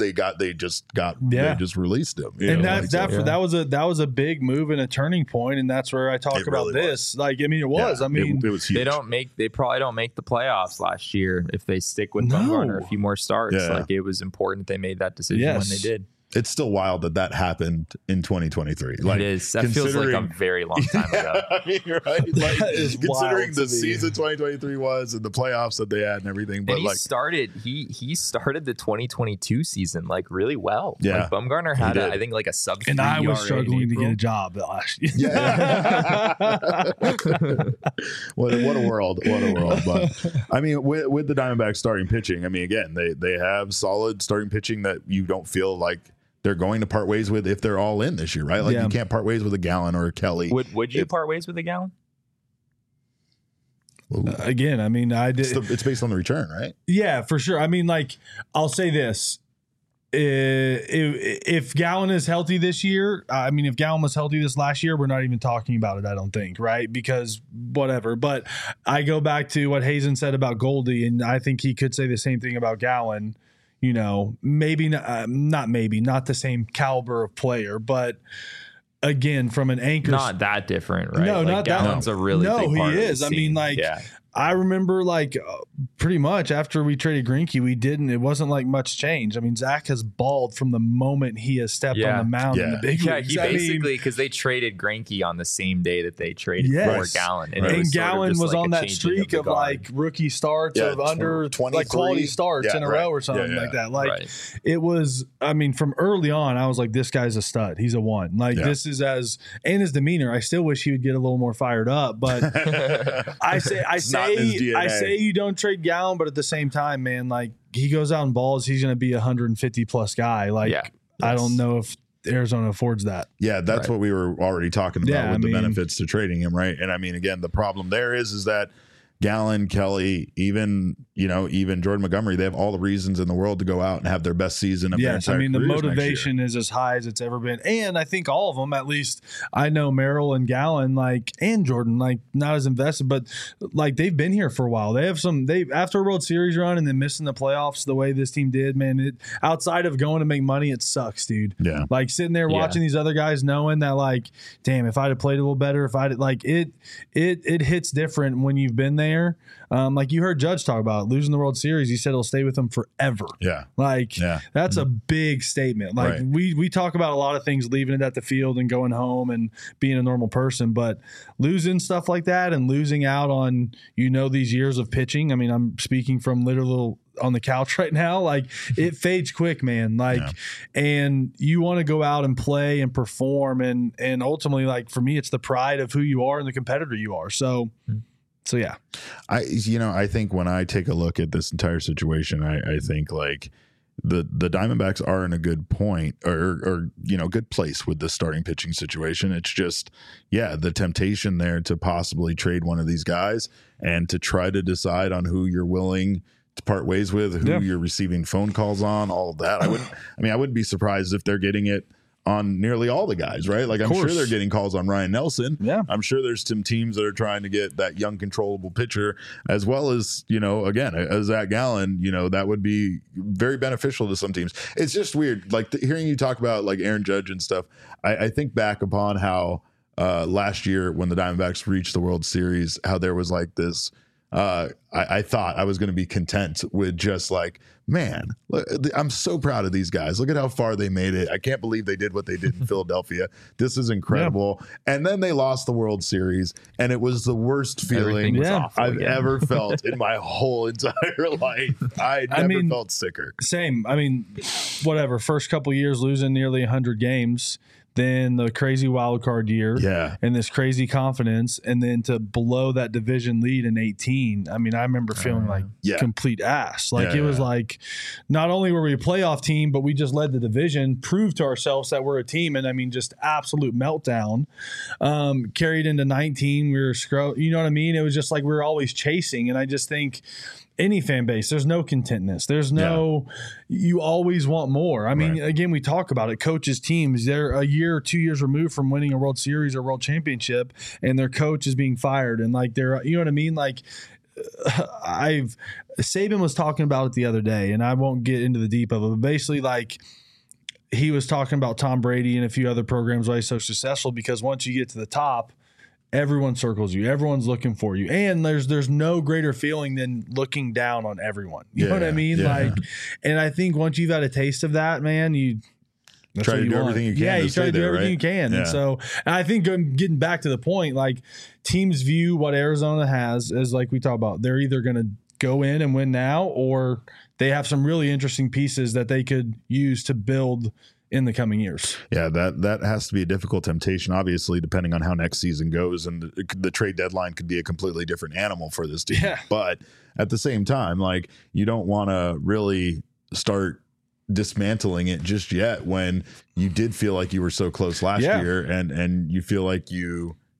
[SPEAKER 2] just released him.
[SPEAKER 1] And that was a big move and a turning point. And that's where I talk about this. Like, I mean, it was.
[SPEAKER 2] Yeah,
[SPEAKER 1] I mean,
[SPEAKER 2] it was huge.
[SPEAKER 3] They probably don't make the playoffs last year if they stick with Bumgarner a few more starts.
[SPEAKER 2] Yeah.
[SPEAKER 3] Like it was important they made that decision when they did.
[SPEAKER 2] It's still wild that happened in 2023. Like,
[SPEAKER 3] it is. That feels like a very long time ago.
[SPEAKER 2] I mean, you're right. Like, considering the
[SPEAKER 1] wild
[SPEAKER 2] season 2023 was and the playoffs that they had and everything. But
[SPEAKER 3] and he started the 2022 season like really well.
[SPEAKER 2] Yeah.
[SPEAKER 3] Like Bumgarner had I think like a sub.
[SPEAKER 1] And I was struggling to get a job last year.
[SPEAKER 2] Yeah. What a world. What a world. But I mean, with the Diamondbacks starting pitching, I mean, again, they have solid starting pitching that you don't feel like they're going to part ways with if they're all in this year, right? Like you can't part ways with a Gallen or a Kelly.
[SPEAKER 3] Would you part ways with a Gallen?
[SPEAKER 1] Again, I mean,
[SPEAKER 2] It's based on the return, right?
[SPEAKER 1] Yeah, for sure. I mean, like, I'll say this. If Gallen is healthy this year, I mean, if Gallen was healthy this last year, we're not even talking about it, I don't think, right? Because whatever. But I go back to what Hazen said about Goldie, and I think he could say the same thing about Gallen. You know, maybe not the same caliber of player, but again, from an anchor,
[SPEAKER 3] not that different, right?
[SPEAKER 1] No,
[SPEAKER 3] like
[SPEAKER 1] not that.
[SPEAKER 3] Gallen's a really big part
[SPEAKER 1] he
[SPEAKER 3] of
[SPEAKER 1] is.
[SPEAKER 3] the
[SPEAKER 1] I mean,
[SPEAKER 3] scene.
[SPEAKER 1] like,
[SPEAKER 3] yeah.
[SPEAKER 1] I remember like pretty much after we traded Greinke, it wasn't like much change. I mean, Zach has balled from the moment he has stepped on the mound in the big leagues.
[SPEAKER 3] He basically, because they traded Greinke on the same day that they traded for Gallen.
[SPEAKER 1] And Gallen was on that streak of like rookie starts of under
[SPEAKER 2] 23,
[SPEAKER 1] like quality starts in a row or something like that. Like it was, I mean, from early on, I was like, this guy's a stud. He's a one. Like this is and his demeanor, I still wish he would get a little more fired up, but I say you don't trade Gallen, but at the same time, man, like he goes out and balls, he's going to be 150 plus guy. Like I don't know if Arizona affords that.
[SPEAKER 2] Yeah, that's what we were already talking about with the benefits to trading him, right? And I mean, again, the problem there is that Gallen, Kelly, even Jordan Montgomery, they have all the reasons in the world to go out and have their best season of their entire
[SPEAKER 1] I mean, the
[SPEAKER 2] careers
[SPEAKER 1] motivation is as high as it's ever been. And I think all of them, at least I know Merrill and Gallen, like, and Jordan, like, not as invested, but like they've been here for a while. They have after a World Series run and then missing the playoffs the way this team did, man, outside of going to make money, it sucks, dude.
[SPEAKER 2] Yeah.
[SPEAKER 1] Like sitting there watching these other guys knowing that, like, damn, if I'd have played a little better, it hits different when you've been there. Like you heard Judge talk about losing the World Series. He said he'll stay with them forever.
[SPEAKER 2] Yeah.
[SPEAKER 1] Like that's a big statement. Like we talk about a lot of things, leaving it at the field and going home and being a normal person, but losing stuff like that and losing out on, these years of pitching. I mean, I'm speaking from literal on the couch right now. Like it fades quick, man. Like, and you want to go out and play and perform. And ultimately, like for me, it's the pride of who you are and the competitor you are. So yeah,
[SPEAKER 2] I think when I take a look at this entire situation, I think like the Diamondbacks are in a good point or good place with the starting pitching situation. It's just, the temptation there to possibly trade one of these guys and to try to decide on who you're willing to part ways with, who you're receiving phone calls on, all of that. I wouldn't be surprised if they're getting it on nearly all the guys, right? Like I'm sure they're getting calls on Ryan Nelson.
[SPEAKER 1] Yeah.
[SPEAKER 2] I'm sure there's some teams that are trying to get that young, controllable pitcher, as well as, again, as Zach Gallen, that would be very beneficial to some teams. It's just weird. Like hearing you talk about like Aaron Judge and stuff. I think back upon how last year when the Diamondbacks reached the World Series, how there was like this, I thought I was going to be content with just like, man, look, I'm so proud of these guys. Look at how far they made it. I can't believe they did what they did in Philadelphia. This is incredible. Yeah. And then they lost the World Series, and it was the worst feeling I've ever felt in my whole entire life. I never felt sicker.
[SPEAKER 1] Same. I mean, whatever. First couple of years losing nearly 100 games. Then the crazy wild card year, and this crazy confidence, and then to blow that division lead in 18. I mean, I remember feeling like complete ass. Like it was like, not only were we a playoff team, but we just led the division, proved to ourselves that we're a team, and I mean, just absolute meltdown. Carried into 19, we were you know what I mean? It was just like we were always chasing, and I just think any fan base, there's no contentness. There's no, you always want more. I mean, again, we talk about it. Coaches, teams, they're a year or 2 years removed from winning a World Series or World Championship, and their coach is being fired. And like, you know what I mean? Like, Saban was talking about it the other day, and I won't get into the deep of it, but basically, like, he was talking about Tom Brady and a few other programs why he's so successful, because once you get to the top, everyone circles you. Everyone's looking for you. And there's no greater feeling than looking down on everyone. You know what I mean? Yeah. Like, and I think once you've had a taste of that, man, you
[SPEAKER 2] try to do everything you can.
[SPEAKER 1] Yeah, you try to do everything you can. Yeah. And so, and I think getting back to the point, like teams view what Arizona has as, like we talk about, they're either going to go in and win now, or they have some really interesting pieces that they could use to build in the coming years.
[SPEAKER 2] Yeah, that has to be a difficult temptation, obviously, depending on how next season goes. And the trade deadline could be a completely different animal for this team. Yeah. But at the same time, like, you don't want to really start dismantling it just yet when you did feel like you were so close last year, and you feel like you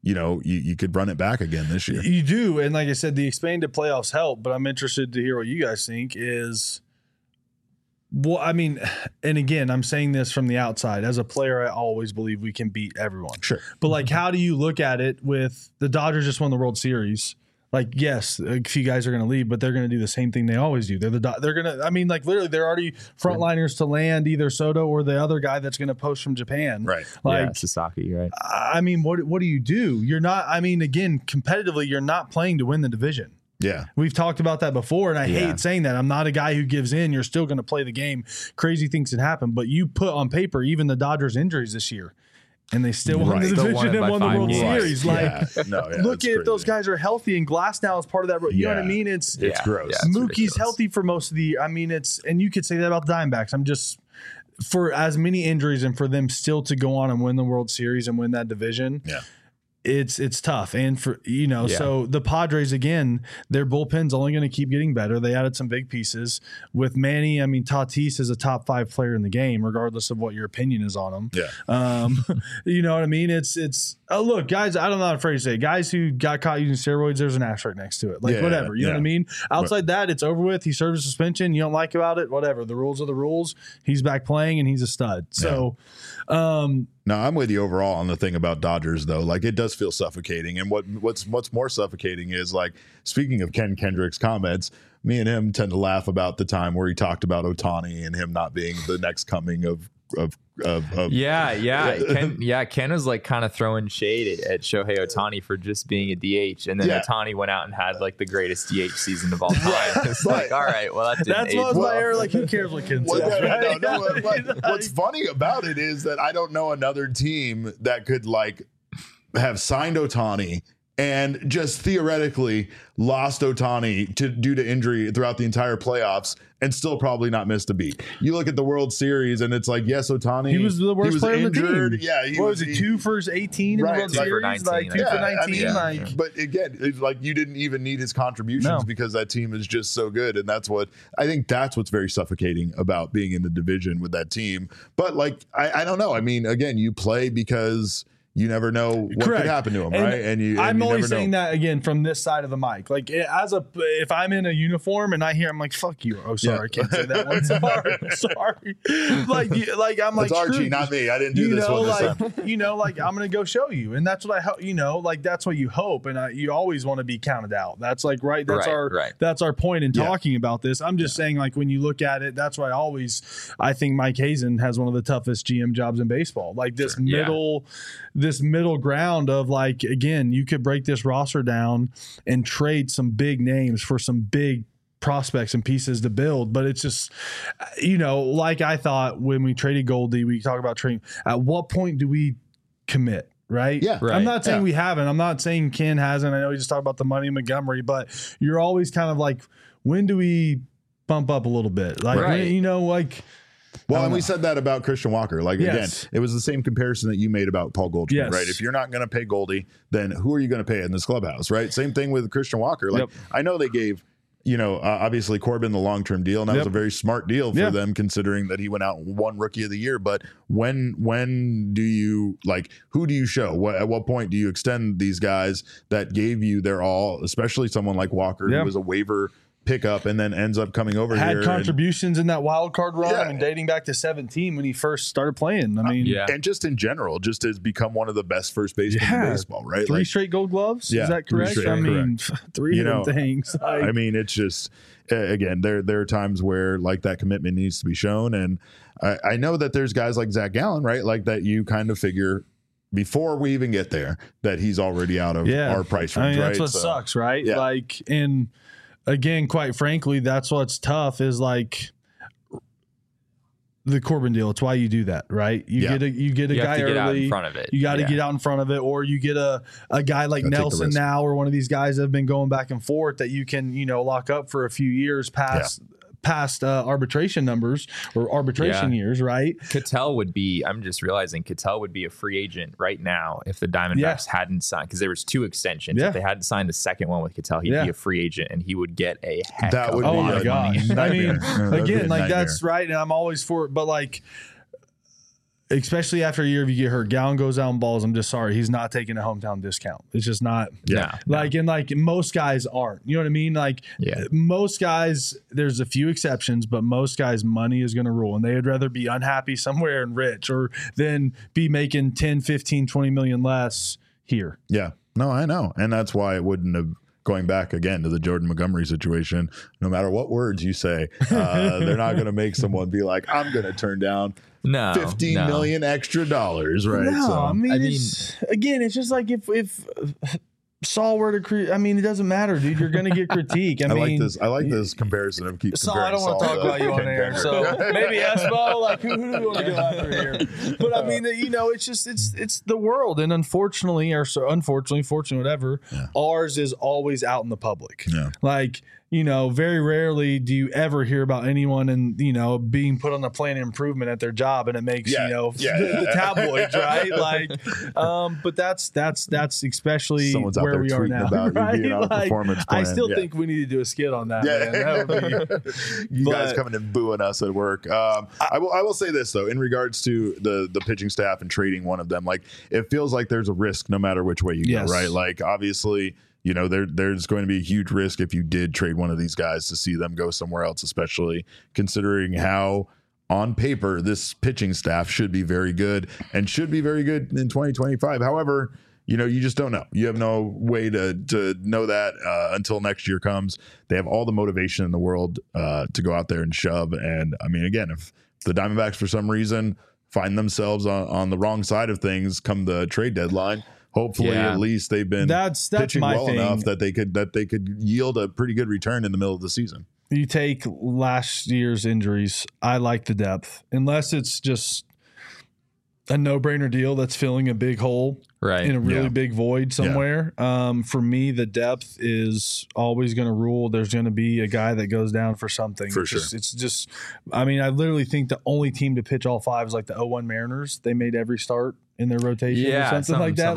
[SPEAKER 2] you could run it back again this year.
[SPEAKER 1] You do. And like I said, the expanded playoffs help, but I'm interested to hear what you guys think is, well, I mean, and again, I'm saying this from the outside. As a player, I always believe we can beat everyone.
[SPEAKER 2] Sure.
[SPEAKER 1] But like, how do you look at it with the Dodgers just won the World Series? Like, yes, a few guys are going to leave, but they're going to do the same thing they always do. They're going to, I mean, like literally they're already frontliners to land either Soto or the other guy that's going to post from Japan.
[SPEAKER 2] Right.
[SPEAKER 1] Like
[SPEAKER 3] Sasaki, right.
[SPEAKER 1] I mean, what do you do? You're not, I mean, again, competitively, you're not playing to win the division.
[SPEAKER 2] Yeah.
[SPEAKER 1] We've talked about that before, and I hate saying that. I'm not a guy who gives in. You're still going to play the game. Crazy things can happen, but you put on paper even the Dodgers' injuries this year, and they still won the division and won the World Series. Like, look at those guys are healthy, and Glasnow is part of that. You know what I mean? It's
[SPEAKER 2] gross.
[SPEAKER 1] Yeah, Mookie's healthy for most of the year. I mean, and you could say that about the Diamondbacks. I'm just for as many injuries and for them still to go on and win the World Series and win that division.
[SPEAKER 2] Yeah.
[SPEAKER 1] It's tough. And for, so the Padres, again, their bullpen's only going to keep getting better. They added some big pieces with Manny. I mean, Tatis is a top 5 player in the game, regardless of what your opinion is on him.
[SPEAKER 2] Yeah.
[SPEAKER 1] You know what I mean? It's look, guys, I'm not afraid to say, guys who got caught using steroids, there's an asterisk next to it. Like, whatever. You know what I mean? Outside that, it's over with. He served a suspension. You don't like about it, whatever. The rules are the rules. He's back playing, and he's a stud. So,
[SPEAKER 2] no, I'm with you overall on the thing about Dodgers, though. Like, it does feel suffocating. And what's more suffocating is, like, speaking of Ken Kendrick's comments, me and him tend to laugh about the time where he talked about Ohtani and him not being the next coming of
[SPEAKER 3] Ken was like kind of throwing shade at Shohei Ohtani for just being a DH, and then Ohtani went out and had like the greatest DH season of all time. It's like, all right, well,
[SPEAKER 1] that's what was my error. Like, who cares what Ken says?
[SPEAKER 2] What's funny about it is that I don't know another team that could like have signed Ohtani and just theoretically lost Ohtani due to injury throughout the entire playoffs and still probably not missed a beat. You look at the World Series and it's like, yes, Ohtani.
[SPEAKER 1] He was the worst player
[SPEAKER 2] injured.
[SPEAKER 1] on the team.
[SPEAKER 2] Yeah.
[SPEAKER 1] What was it, 2 for 18 in the World Series? Like 2 for 19.
[SPEAKER 2] But again, it's like you didn't even need his contributions because that team is just so good. And that's what's very suffocating about being in the division with that team. But like, I don't know. I mean, again, you play because you never know what could happen to him, right? And
[SPEAKER 1] I'm always saying that again from this side of the mic. Like, if I'm in a uniform and I hear, I'm like, "Fuck you." Oh, sorry, I can't say that one. Sorry. Like I'm like,
[SPEAKER 2] it's Archie, not me. I didn't do this one.
[SPEAKER 1] Like I'm gonna go show you, and that's what I hope. Like that's what you hope, and you always want to be counted out. That's like that's our point in talking about this. I'm just saying, like when you look at it, that's why I think Mike Hazen has one of the toughest GM jobs in baseball. Like this middle ground of like, again, you could break this roster down and trade some big names for some big prospects and pieces to build. But it's just, like I thought when we traded Goldie, we talk about trading. At what point do we commit? Right.
[SPEAKER 2] Yeah. Right.
[SPEAKER 1] I'm not saying we haven't. I'm not saying Ken hasn't. I know he just talked about the money in Montgomery, but you're always kind of like, when do we bump up a little bit? Like,
[SPEAKER 2] Well, and we said that about Christian Walker. Like, again, it was the same comparison that you made about Paul Goldschmidt, right? If you're not going to pay Goldie, then who are you going to pay in this clubhouse, right? Same thing with Christian Walker. Like, I know they gave, obviously Corbin the long-term deal, and that was a very smart deal for them, considering that he went out and won Rookie of the Year. But when do you, like, who do you show? At what point do you extend these guys that gave you their all, especially someone like Walker, who was a waiver pickup and then ends up coming over here.
[SPEAKER 1] Had contributions in that wild card run and dating back to 17 when he first started playing. I mean,
[SPEAKER 2] and just in general, just has become one of the best first basemen in baseball, right?
[SPEAKER 1] 3 straight Gold Gloves. Is that correct? I mean, 3 of them things.
[SPEAKER 2] I mean, it's just, again, there are times where like that commitment needs to be shown. And I know that there's guys like Zach Gallen, right? Like that you kind of figure before we even get there that he's already out of our price range, right?
[SPEAKER 1] That's what sucks, right? Yeah. Like, and again, quite frankly, that's what's tough is like the Corbin deal. It's why you do that, right? You get a guy early.
[SPEAKER 3] Out in front of it.
[SPEAKER 1] You got to get out in front of it, or you get a guy like Nelson now, or one of these guys that have been going back and forth that you can lock up for a few years past arbitration numbers or arbitration years, right?
[SPEAKER 3] Ketel would be, I'm just realizing Ketel would be a free agent right now if the Diamondbacks hadn't signed, because there was 2 extensions. If they hadn't signed the second one with Ketel, he'd be a free agent and he would get a heck of a lot of money.
[SPEAKER 1] I mean, again, like that's right. And I'm always for it, but like, especially after a year if you get hurt, Gallen goes out and balls. I'm just sorry. He's not taking a hometown discount. It's just not.
[SPEAKER 2] Yeah.
[SPEAKER 1] And most guys aren't. You know what I mean? Most guys, there's a few exceptions, but most guys, money is going to rule. And they would rather be unhappy somewhere and rich or than be making 10, 15, 20 million less here.
[SPEAKER 2] Yeah. No, I know. And that's why it wouldn't have. Going back again to the Jordan Montgomery situation, no matter what words you say, they're not going to make someone be like, I'm going to turn down $15 million extra dollars, right?
[SPEAKER 1] No,
[SPEAKER 2] so,
[SPEAKER 1] I mean, it's just like if Saul were to it doesn't matter, dude. You're going to get critique. I mean,
[SPEAKER 2] like this comparison of keep
[SPEAKER 1] Saul,
[SPEAKER 2] comparing
[SPEAKER 1] I don't want to talk about you on air, so maybe Espo, who do we want to go after here? But I mean, it's just it's the world, and unfortunately, fortunately, whatever, ours is always out in the public.
[SPEAKER 2] Yeah.
[SPEAKER 1] Very rarely do you ever hear about anyone and being put on the plan of improvement at their job, and it makes the tabloids, right? But that's especially
[SPEAKER 2] someone's
[SPEAKER 1] where we are now.
[SPEAKER 2] About
[SPEAKER 1] right?
[SPEAKER 2] you being on a performance plan.
[SPEAKER 1] I still think we need to do a skit on that.
[SPEAKER 2] Yeah.
[SPEAKER 1] Man. That would be,
[SPEAKER 2] you guys coming and booing us at work. I will say this though, in regards to the pitching staff and trading one of them, it feels like there's a risk no matter which way you go, right? Obviously. There's going to be a huge risk if you did trade one of these guys to see them go somewhere else, especially considering how on paper this pitching staff should be very good and should be very good in 2025. However, you just don't know. You have no way to know that until next year comes. They have all the motivation in the world to go out there and shove. And I mean, again, if the Diamondbacks for some reason find themselves on the wrong side of things come the trade deadline, hopefully, at least they've been
[SPEAKER 1] that's
[SPEAKER 2] pitching
[SPEAKER 1] my
[SPEAKER 2] well
[SPEAKER 1] thing.
[SPEAKER 2] enough that they could yield a pretty good return in the middle of the season.
[SPEAKER 1] You take last year's injuries. I like the depth, unless it's just a no-brainer deal that's filling a big hole in a really big void somewhere. For me, the depth is always going to rule. There's going to be a guy that goes down for something.
[SPEAKER 2] For sure.
[SPEAKER 1] It's just, I mean, I literally think the only team to pitch all five is the 0-1 Mariners. They made every start in their rotation or something like that.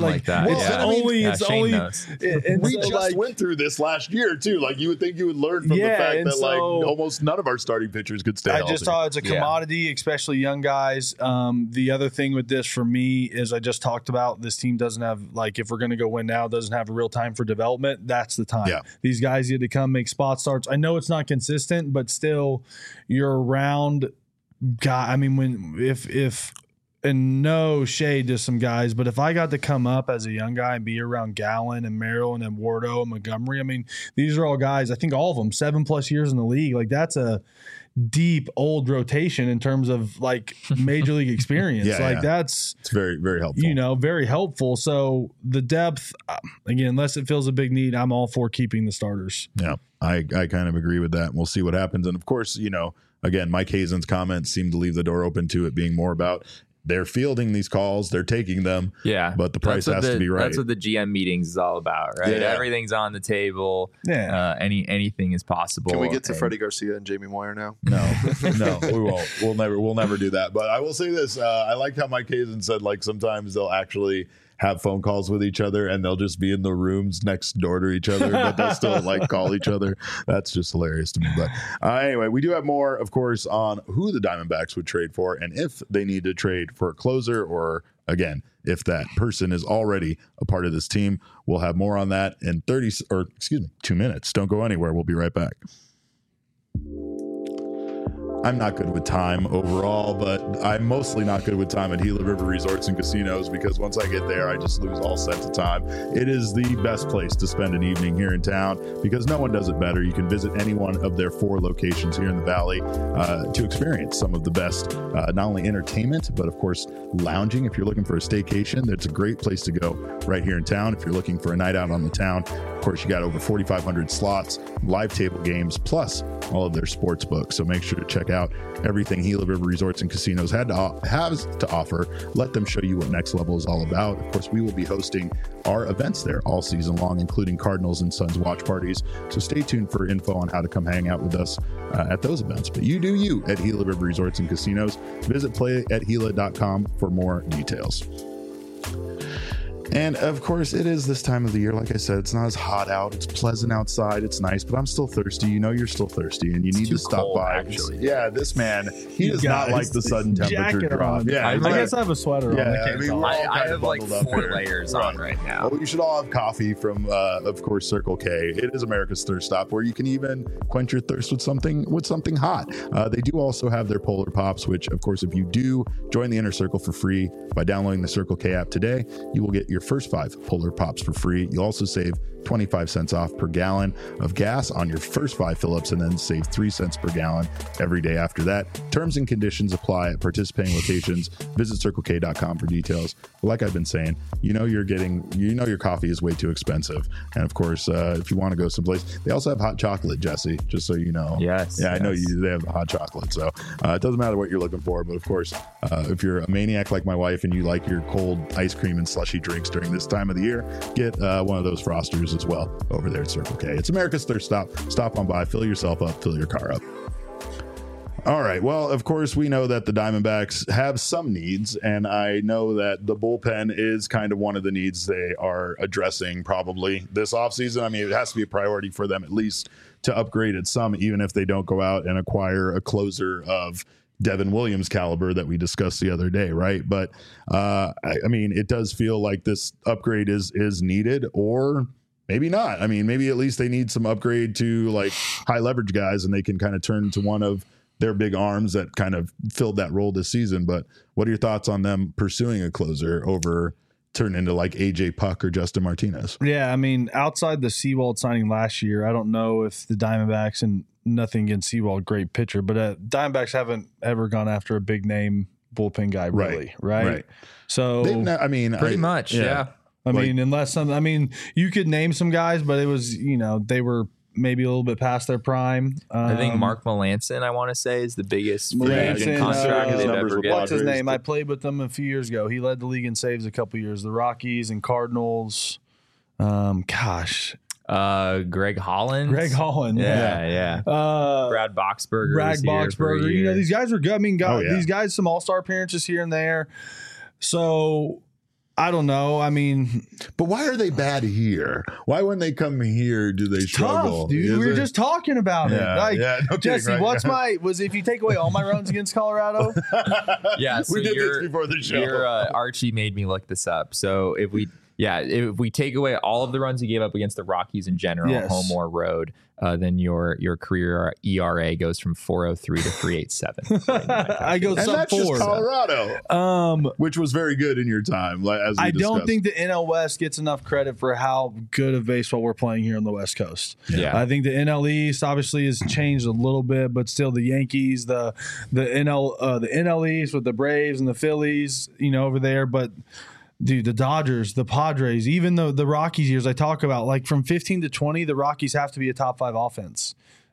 [SPEAKER 1] It's only.
[SPEAKER 2] We just went through this last year too. You would think you would learn from the fact that almost none of our starting pitchers could stay healthy.
[SPEAKER 1] I just thought it's a commodity, especially young guys. The other thing with this for me is I just talked about this team doesn't have if we're going to go win now, doesn't have a real time for development. That's the time. Yeah. These guys need to come make spot starts. I know it's not consistent, but still, you're around guy. I mean, if and no shade to some guys, but if I got to come up as a young guy and be around Gallen and Merrill and Eduardo and Montgomery, I mean, these are all guys, I think all of them, 7+ years in the league. That's a deep old rotation in terms of major league experience. It's
[SPEAKER 2] very, very helpful.
[SPEAKER 1] Very helpful. So the depth, again, unless it fills a big need, I'm all for keeping the starters.
[SPEAKER 2] Yeah, I kind of agree with that. We'll see what happens. And of course, again, Mike Hazen's comments seem to leave the door open to it being more about they're fielding these calls, they're taking them.
[SPEAKER 3] Yeah.
[SPEAKER 2] But the price has to be right.
[SPEAKER 3] That's what the GM meetings is all about, right?
[SPEAKER 2] Yeah.
[SPEAKER 3] Everything's on the table.
[SPEAKER 1] Yeah.
[SPEAKER 3] Anything is possible.
[SPEAKER 4] Can we get to Freddie Garcia and Jamie Moyer now?
[SPEAKER 2] No, we won't. We'll never do that. But I will say this. I liked how Mike Hazen said, sometimes they'll actually have phone calls with each other and they'll just be in the rooms next door to each other, but they'll still call each other. That's just hilarious to me. But anyway, we do have more, of course, on who the Diamondbacks would trade for and if they need to trade for a closer or, again, if that person is already a part of this team. We'll have more on that in 2 minutes. Don't go anywhere. We'll be right back. I'm not good with time overall, but I'm mostly not good with time at Gila River Resorts and Casinos because once I get there, I just lose all sense of time. It is the best place to spend an evening here in town because no one does it better. You can visit any one of their 4 locations here in the Valley to experience some of the best, not only entertainment, but of course, lounging. If you're looking for a staycation, that's a great place to go right here in town. If you're looking for a night out on the town, of course, you got over 4,500 slots, live table games, plus all of their sports books. So make sure to check out everything Gila River Resorts and Casinos has to offer. Let them show you what Next Level is all about. Of course, we will be hosting our events there all season long, including Cardinals and Suns watch parties. So stay tuned for info on how to come hang out with us at those events. But you do you at Gila River Resorts and Casinos. Visit playathila.com for more details. And of course, it is this time of the year. Like I said, it's not as hot out. It's pleasant outside. It's nice, but I'm still thirsty. You know, you're still thirsty, and you need to stop
[SPEAKER 3] cold,
[SPEAKER 2] by.
[SPEAKER 3] actually.
[SPEAKER 2] Yeah, this man, he does not like the sudden temperature
[SPEAKER 1] Jacket
[SPEAKER 2] drop.
[SPEAKER 1] on.
[SPEAKER 2] Yeah,
[SPEAKER 1] I guess I have a sweater on.
[SPEAKER 2] Yeah, I mean, we're all
[SPEAKER 3] I
[SPEAKER 2] kind
[SPEAKER 3] have
[SPEAKER 2] of
[SPEAKER 3] like
[SPEAKER 2] bundled up
[SPEAKER 3] 4
[SPEAKER 2] here.
[SPEAKER 3] layers on right now.
[SPEAKER 2] Well, you should all have coffee from, of course, Circle K. It is America's thirst stop, where you can even quench your thirst with something hot. They do also have their Polar Pops, which, of course, if you do join the Inner Circle for free by downloading the Circle K app today, you will get your first 5 Polar Pops for free. You'll also save 25 cents off per gallon of gas on your first 5 fill-ups, and then save 3 cents per gallon every day after that. Terms and conditions apply at participating locations. Visit CircleK.com for details. But like I've been saying, you know your coffee is way too expensive. And of course, if you want to go someplace, they also have hot chocolate, Jesse, just so you know.
[SPEAKER 3] Yes.
[SPEAKER 2] Yeah, I know they have the hot chocolate. So it doesn't matter what you're looking for. But of course, if you're a maniac like my wife and you like your cold ice cream and slushy drinks during this time of the year, get one of those Frosters as well over there at Circle K. It's America's thirst stop. Stop on by, fill yourself up, fill your car up. All right. Well, of course, we know that the Diamondbacks have some needs, and I know that the bullpen is kind of one of the needs they are addressing probably this offseason. I mean, it has to be a priority for them at least to upgrade at some, even if they don't go out and acquire a closer of Devin Williams caliber that we discussed the other day, right? But I mean, it does feel like this upgrade is needed, or maybe not. I mean, maybe at least they need some upgrade to like high leverage guys, and they can kind of turn to one of their big arms that kind of filled that role this season. But what are your thoughts on them pursuing a closer over turning into like AJ Puck or Justin Martinez?
[SPEAKER 1] Yeah, I mean, outside the Seawald signing last year, I don't know if the Diamondbacks, and nothing against Seawald, great pitcher, but Diamondbacks haven't ever gone after a big name bullpen guy, really, right? So,
[SPEAKER 3] pretty much, yeah.
[SPEAKER 1] I mean, unless some, I mean, you could name some guys, but it was, they were maybe a little bit past their prime.
[SPEAKER 3] I think Mark Melanson, I want to say, is the biggest free
[SPEAKER 1] Melanson,
[SPEAKER 3] agent contract they've ever get.
[SPEAKER 1] What's his name? I played with them a few years ago. He led the league in saves a couple years. The Rockies and Cardinals.
[SPEAKER 3] Greg Holland. Yeah. Brad Boxberger.
[SPEAKER 1] These guys are good. I mean, these guys, some all-star appearances here and there. So I don't know. I mean,
[SPEAKER 2] but why are they bad here? Why when they come here do they struggle?
[SPEAKER 1] Tough, dude. We were just talking about it. Like,
[SPEAKER 2] no
[SPEAKER 1] Jesse,
[SPEAKER 2] kidding,
[SPEAKER 1] was if you take away all my runs against Colorado?
[SPEAKER 3] Yeah, so
[SPEAKER 2] we did this before the show.
[SPEAKER 3] Archie made me look this up. So if we take away all of the runs he gave up against the Rockies in general, home or road, then your career ERA goes from 4.03 to 3.87.
[SPEAKER 1] I go sub 4.
[SPEAKER 2] That's just Colorado, which was very good in your time. As
[SPEAKER 1] I don't think the NL West gets enough credit for how good of baseball we're playing here on the West Coast.
[SPEAKER 3] Yeah,
[SPEAKER 1] I think the NL East obviously has changed a little bit, but still the Yankees, the NL East with the Braves and the Phillies, over there, but. Dude, the Dodgers, the Padres, even though the Rockies years I talk about, like from 15 to 20, the Rockies have to be a top 5 offense.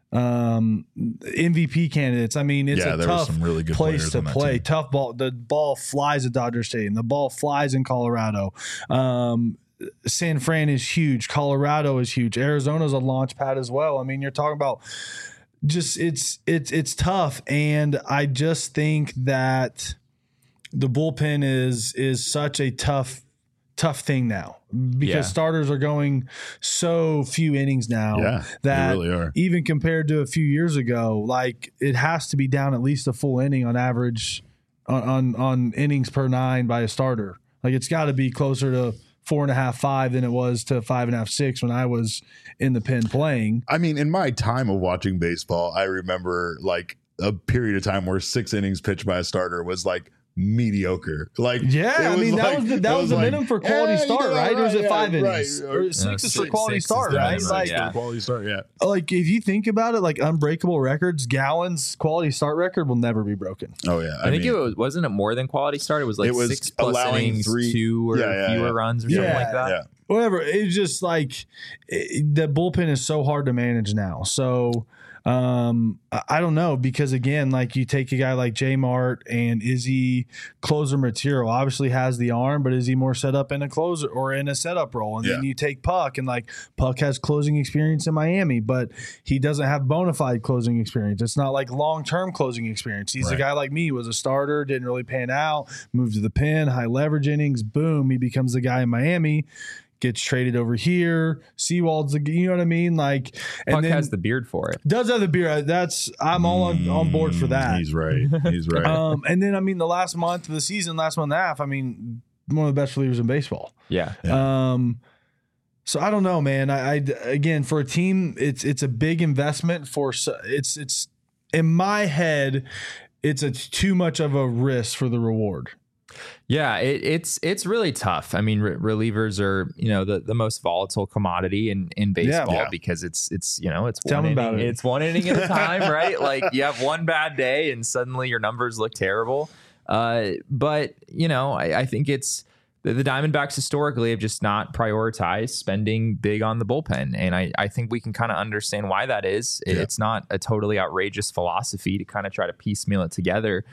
[SPEAKER 1] MVP candidates. I mean, it's a tough
[SPEAKER 2] some really good
[SPEAKER 1] place to play.
[SPEAKER 2] Team.
[SPEAKER 1] Tough ball. The ball flies at Dodger Stadium. The ball flies in Colorado. San Fran is huge. Colorado is huge. Arizona's a launch pad as well. I mean, you're talking about just it's tough, and I just think that the bullpen is such a tough thing now because starters are going so few innings now that
[SPEAKER 2] they really are.
[SPEAKER 1] Even compared to a few years ago, like it has to be down at least a full inning on average on innings per 9 by a starter. Like it's got to be closer to 4.5, 5 than it was to 5.5, 6 when I was in the pen playing.
[SPEAKER 2] I mean, in my time of watching baseball, I remember like a period of time where 6 innings pitched by a starter was like mediocre. Like,
[SPEAKER 1] I mean, that was the minimum for quality start, right? Or was it 5 innings?
[SPEAKER 2] Right.
[SPEAKER 1] Or 6 is for quality start, right? Like,
[SPEAKER 2] quality start,
[SPEAKER 1] like if you think about it, like unbreakable records, Gallen's quality start record will never be broken.
[SPEAKER 2] Oh yeah,
[SPEAKER 3] I think it wasn't it more than quality start. It was like 6 plus innings, 2 or fewer runs or something like that.
[SPEAKER 2] Yeah.
[SPEAKER 1] Whatever. It's just like the bullpen is so hard to manage now. So I don't know, because again, like you take a guy like J Mart, and is he closer material? Obviously has the arm, but is he more set up in a closer or in a setup role? And then you take Puck, and like Puck has closing experience in Miami, but he doesn't have bona fide closing experience. It's not like long-term closing experience. He's a guy like me, was a starter, didn't really pan out, moved to the pen, high leverage innings, boom, he becomes the guy in Miami. Gets traded over here. Seawald's the, you know what I mean? Like, and
[SPEAKER 3] Puck
[SPEAKER 1] then
[SPEAKER 3] has the beard for it.
[SPEAKER 1] does have the beard. I'm all on board for that.
[SPEAKER 2] He's right. He's right.
[SPEAKER 1] And then I mean, the last month of the season, last month and a half, I mean, one of the best relievers in baseball.
[SPEAKER 3] Yeah.
[SPEAKER 1] So I don't know, man. I again, for a team, it's a big investment for. It's in my head, it's too much of a risk for the reward.
[SPEAKER 3] Yeah, it's really tough. I mean, relievers are, the most volatile commodity in baseball because it's
[SPEAKER 1] Tell me about it.
[SPEAKER 3] It's one inning at a time, right? Like you have one bad day and suddenly your numbers look terrible. But I think it's the Diamondbacks historically have just not prioritized spending big on the bullpen. And I think we can kind of understand why that is. It's not a totally outrageous philosophy to kind of try to piecemeal it together.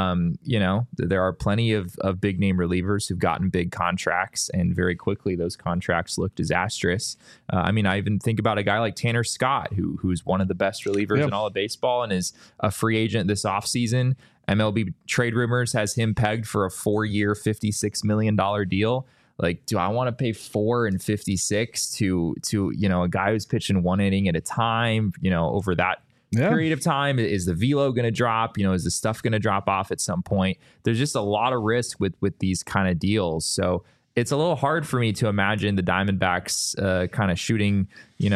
[SPEAKER 3] There are plenty of big name relievers who've gotten big contracts, and very quickly those contracts look disastrous. I even think about a guy like Tanner Scott, who's one of the best relievers in all of baseball and is a free agent this offseason. MLB trade rumors has him pegged for a 4-year, $56 million deal. Like, do I want to pay $4 and $56 to a guy who's pitching one inning at a time, over that period of time? Is the velo going to drop? Is the stuff going to drop off at some point? There's just a lot of risk with these kind of deals. So it's a little hard for me to imagine the Diamondbacks kind of shooting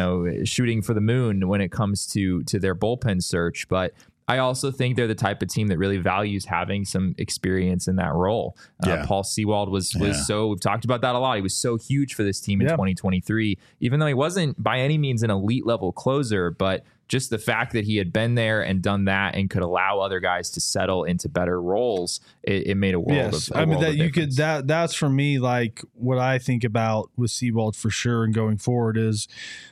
[SPEAKER 3] for the moon when it comes to their bullpen search. But I also think they're the type of team that really values having some experience in that role. Paul Sewald was so, we've talked about that a lot. He was so huge for this team in 2023, even though he wasn't by any means an elite level closer, but just the fact that he had been there and done that and could allow other guys to settle into better roles, it made a world of difference.
[SPEAKER 1] That's for me, like what I think about with Sewald for sure and going forward is,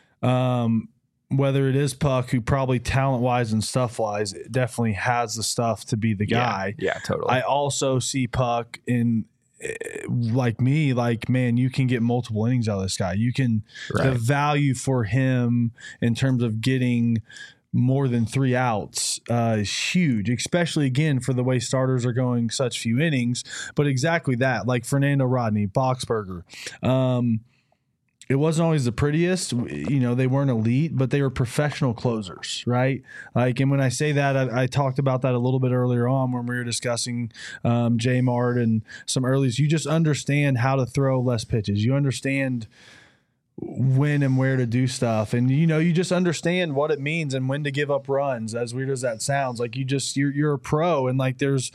[SPEAKER 1] whether it is Puck, who probably talent-wise and stuff-wise definitely has the stuff to be the guy.
[SPEAKER 3] Yeah, totally.
[SPEAKER 1] I also see Puck in, like me, like, man, you can get multiple innings out of this guy. You can, the value for him in terms of getting more than 3 outs is huge, especially, again, for the way starters are going such few innings. But exactly that, like Fernando Rodney, Boxberger, it wasn't always the prettiest, they weren't elite, but they were professional closers, right? Like, and when I say that, I talked about that a little bit earlier on when we were discussing J Mart and some earlies. You just understand how to throw less pitches. You understand when and where to do stuff. And, you just understand what it means and when to give up runs, as weird as that sounds. Like you're a pro, and like there's,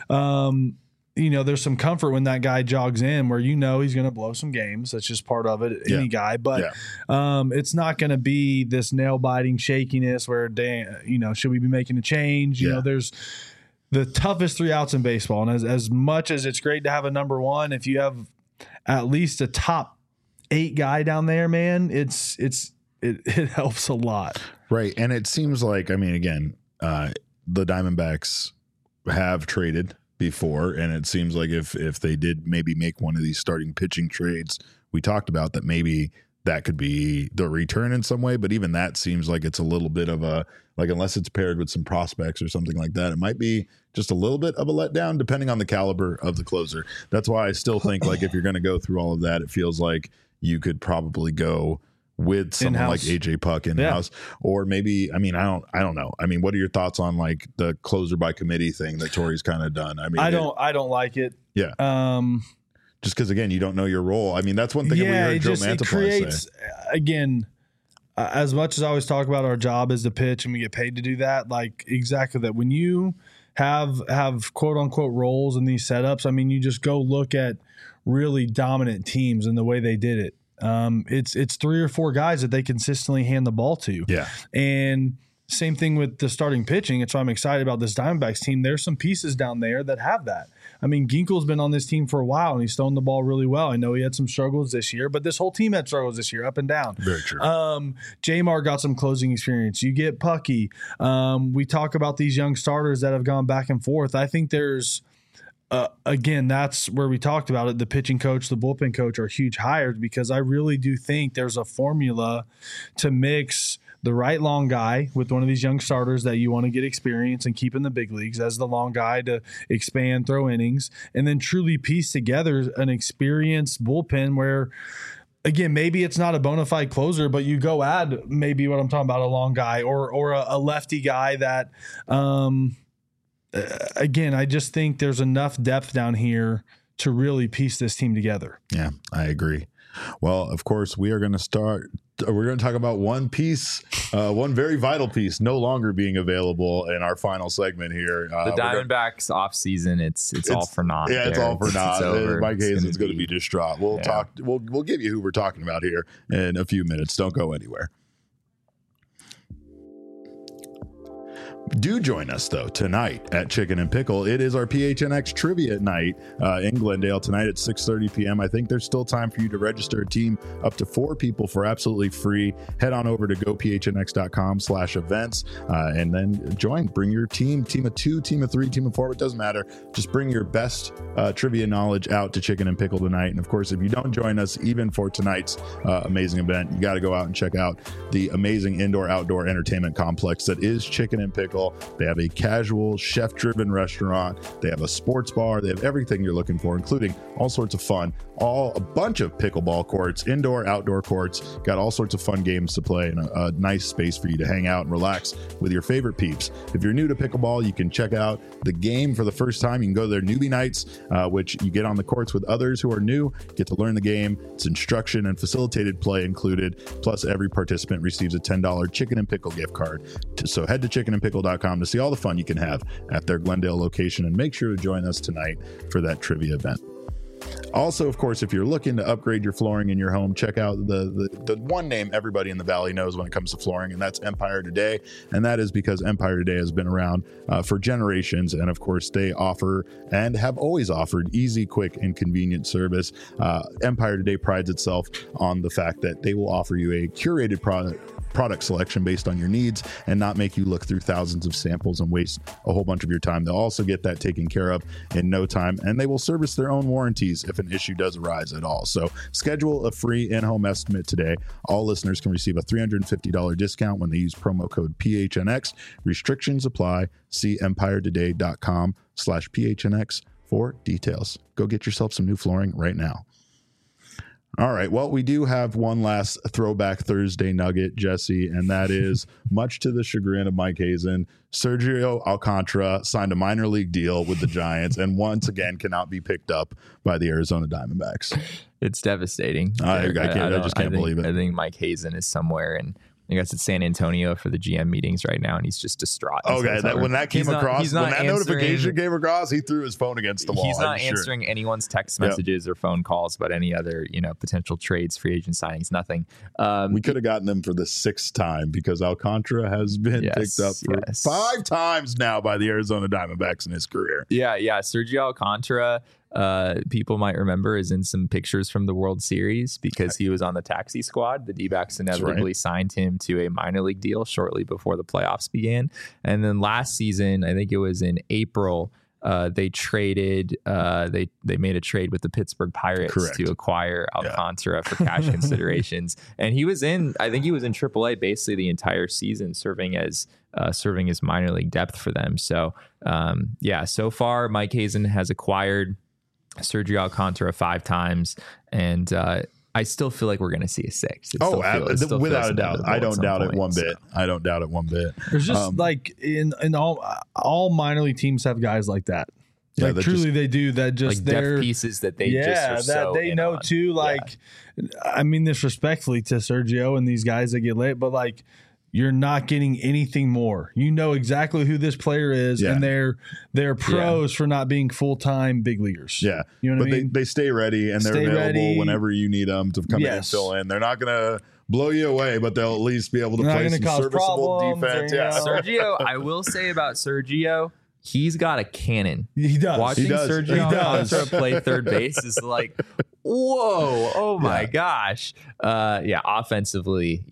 [SPEAKER 1] there's some comfort when that guy jogs in where he's going to blow some games. That's just part of it, any guy. But it's not going to be this nail-biting shakiness where, should we be making a change? There's the toughest 3 outs in baseball. And as much as it's great to have a number one, if you have at least a top 8 guy down there, man, it helps a lot.
[SPEAKER 2] Right. And it seems like, again, the Diamondbacks have traded before, and it seems like if they did maybe make one of these starting pitching trades we talked about, that maybe that could be the return in some way. But even that seems like it's a little bit of a, like, unless it's paired with some prospects or something like that, it might be just a little bit of a letdown depending on the caliber of the closer. That's why I still think, like, if you're going to go through all of that, it feels like you could probably go with someone
[SPEAKER 1] in-house,
[SPEAKER 2] like AJ Puck in-house, or maybe, I don't know. What are your thoughts on like the closer by committee thing that Torey's kind of done?
[SPEAKER 1] I don't like it.
[SPEAKER 2] Yeah. Just because, again, you don't know your role. That's one thing that we heard Joe Mantiply say.
[SPEAKER 1] Again, as much as I always talk about our job is to pitch and we get paid to do that, like exactly that. When you have quote unquote roles in these setups, you just go look at really dominant teams and the way they did it. It's 3 or 4 guys that they consistently hand the ball to.
[SPEAKER 2] Yeah.
[SPEAKER 1] And same thing with the starting pitching. It's why I'm excited about this Diamondbacks team. There's some pieces down there that have that. I mean, Ginkel's been on this team for a while, and he's throwing the ball really well. I know he had some struggles this year, but this whole team had struggles this year, up and down.
[SPEAKER 2] Very true.
[SPEAKER 1] Jamar got some closing experience. You get Pucky. We talk about these young starters that have gone back and forth. I think there's again, that's where we talked about it. The pitching coach, the bullpen coach are huge hires because I really do think there's a formula to mix the right long guy with one of these young starters that you want to get experience and keep in the big leagues as the long guy to expand, throw innings, and then truly piece together an experienced bullpen where, again, maybe it's not a bona fide closer, but you go add maybe what I'm talking about, a long guy or a lefty guy that, again, I just think there's enough depth down here to really piece this team together.
[SPEAKER 2] Yeah, I agree. Well, of course, we're going to talk about one piece, one very vital piece no longer being available in our final segment here.
[SPEAKER 3] The Diamondbacks off season, it's all for naught.
[SPEAKER 2] Yeah, it's all for naught. Mike Hazen's going to be distraught. We'll talk. We'll give you who we're talking about here in a few minutes. Don't go anywhere. Do join us, though, tonight at Chicken and Pickle. It is our PHNX trivia night in Glendale tonight at 6:30 p.m. I think there's still time for you to register a team up to 4 people for absolutely free. Head on over to gophnx.com/events and then join. Bring your team of 2, team of 3, team of 4. It doesn't matter. Just bring your best trivia knowledge out to Chicken and Pickle tonight. And, of course, if you don't join us even for tonight's amazing event, you got to go out and check out the amazing indoor-outdoor entertainment complex that is Chicken and Pickle. They have a casual, chef-driven restaurant. They have a sports bar. They have everything you're looking for, including all sorts of fun, a bunch of pickleball courts, indoor, outdoor courts. Got all sorts of fun games to play and a nice space for you to hang out and relax with your favorite peeps. If you're new to pickleball, you can check out the game for the first time. You can go to their newbie nights, which you get on the courts with others who are new, get to learn the game. It's instruction and facilitated play included. Plus, every participant receives a $10 Chicken and Pickle gift card. So head to chickenandpickle.com to see all the fun you can have at their Glendale location, and make sure to join us tonight for that trivia event. Also, of course, if you're looking to upgrade your flooring in your home, check out the one name everybody in the Valley knows when it comes to flooring, and that's Empire Today. And that is because Empire Today has been around for generations. And of course, they offer and have always offered easy, quick, and convenient service. Empire Today prides itself on the fact that they will offer you a curated product selection based on your needs and not make you look through thousands of samples and waste a whole bunch of your time. They'll also get that taken care of in no time, and they will service their own warranties if an issue does arise at all. So schedule a free in-home estimate today. All listeners can receive a $350 discount when they use promo code PHNX. Restrictions apply. See empiretoday.com/PHNX for details. Go get yourself some new flooring right now. All right. Well, we do have one last Throwback Thursday nugget, Jesse, and that is, much to the chagrin of Mike Hazen, Sergio Alcantara signed a minor league deal with the Giants and once again cannot be picked up by the Arizona Diamondbacks.
[SPEAKER 3] It's devastating.
[SPEAKER 2] I just can't believe it.
[SPEAKER 3] I think Mike Hazen is somewhere in, I guess it's San Antonio for the GM meetings right now, and he's just distraught.
[SPEAKER 2] Okay, when that notification came across, he threw his phone against the wall.
[SPEAKER 3] He's not answering anyone's text messages or phone calls about any other, potential trades, free agent signings, nothing.
[SPEAKER 2] We could have gotten them for the 6th time because Alcantara has been picked up for 5 times now by the Arizona Diamondbacks in his career.
[SPEAKER 3] Yeah. Sergio Alcantara, people might remember, is in some pictures from the World Series because he was on the taxi squad. The D-backs inevitably signed him to a minor league deal shortly before the playoffs began. And then last season, I think it was in April, they traded, they made a trade with the Pittsburgh Pirates to acquire Alcantara for cash considerations. And he was in AAA basically the entire season, serving as minor league depth for them. So, so far Mike Hazen has acquired Sergio Alcantara 5 times, and I still feel like we're going to see a 6th.
[SPEAKER 2] Without a doubt. I don't doubt it one bit. I don't doubt it one bit.
[SPEAKER 1] There's just in all minor league teams have guys like that. Like truly they do that, just
[SPEAKER 3] like depth pieces that they know
[SPEAKER 1] too. I mean this respectfully to Sergio and these guys that get late, but you're not getting anything more. You know exactly who this player is, and they're pros for not being full-time big leaguers.
[SPEAKER 2] Yeah.
[SPEAKER 1] You know what I mean?
[SPEAKER 2] They stay ready, and they're available whenever you need them to come in and fill in. They're not going to blow you away, but they'll at least be able to
[SPEAKER 1] Not
[SPEAKER 2] play
[SPEAKER 1] gonna
[SPEAKER 2] some
[SPEAKER 1] cause
[SPEAKER 2] serviceable
[SPEAKER 1] problems
[SPEAKER 2] defense.
[SPEAKER 1] or,
[SPEAKER 2] Yeah.
[SPEAKER 3] Sergio, I will say about Sergio, he's got a cannon.
[SPEAKER 1] He does.
[SPEAKER 3] Watching
[SPEAKER 2] He does.
[SPEAKER 3] Sergio
[SPEAKER 2] He
[SPEAKER 3] Alcantara play third base is like, whoa, oh my gosh. Offensively,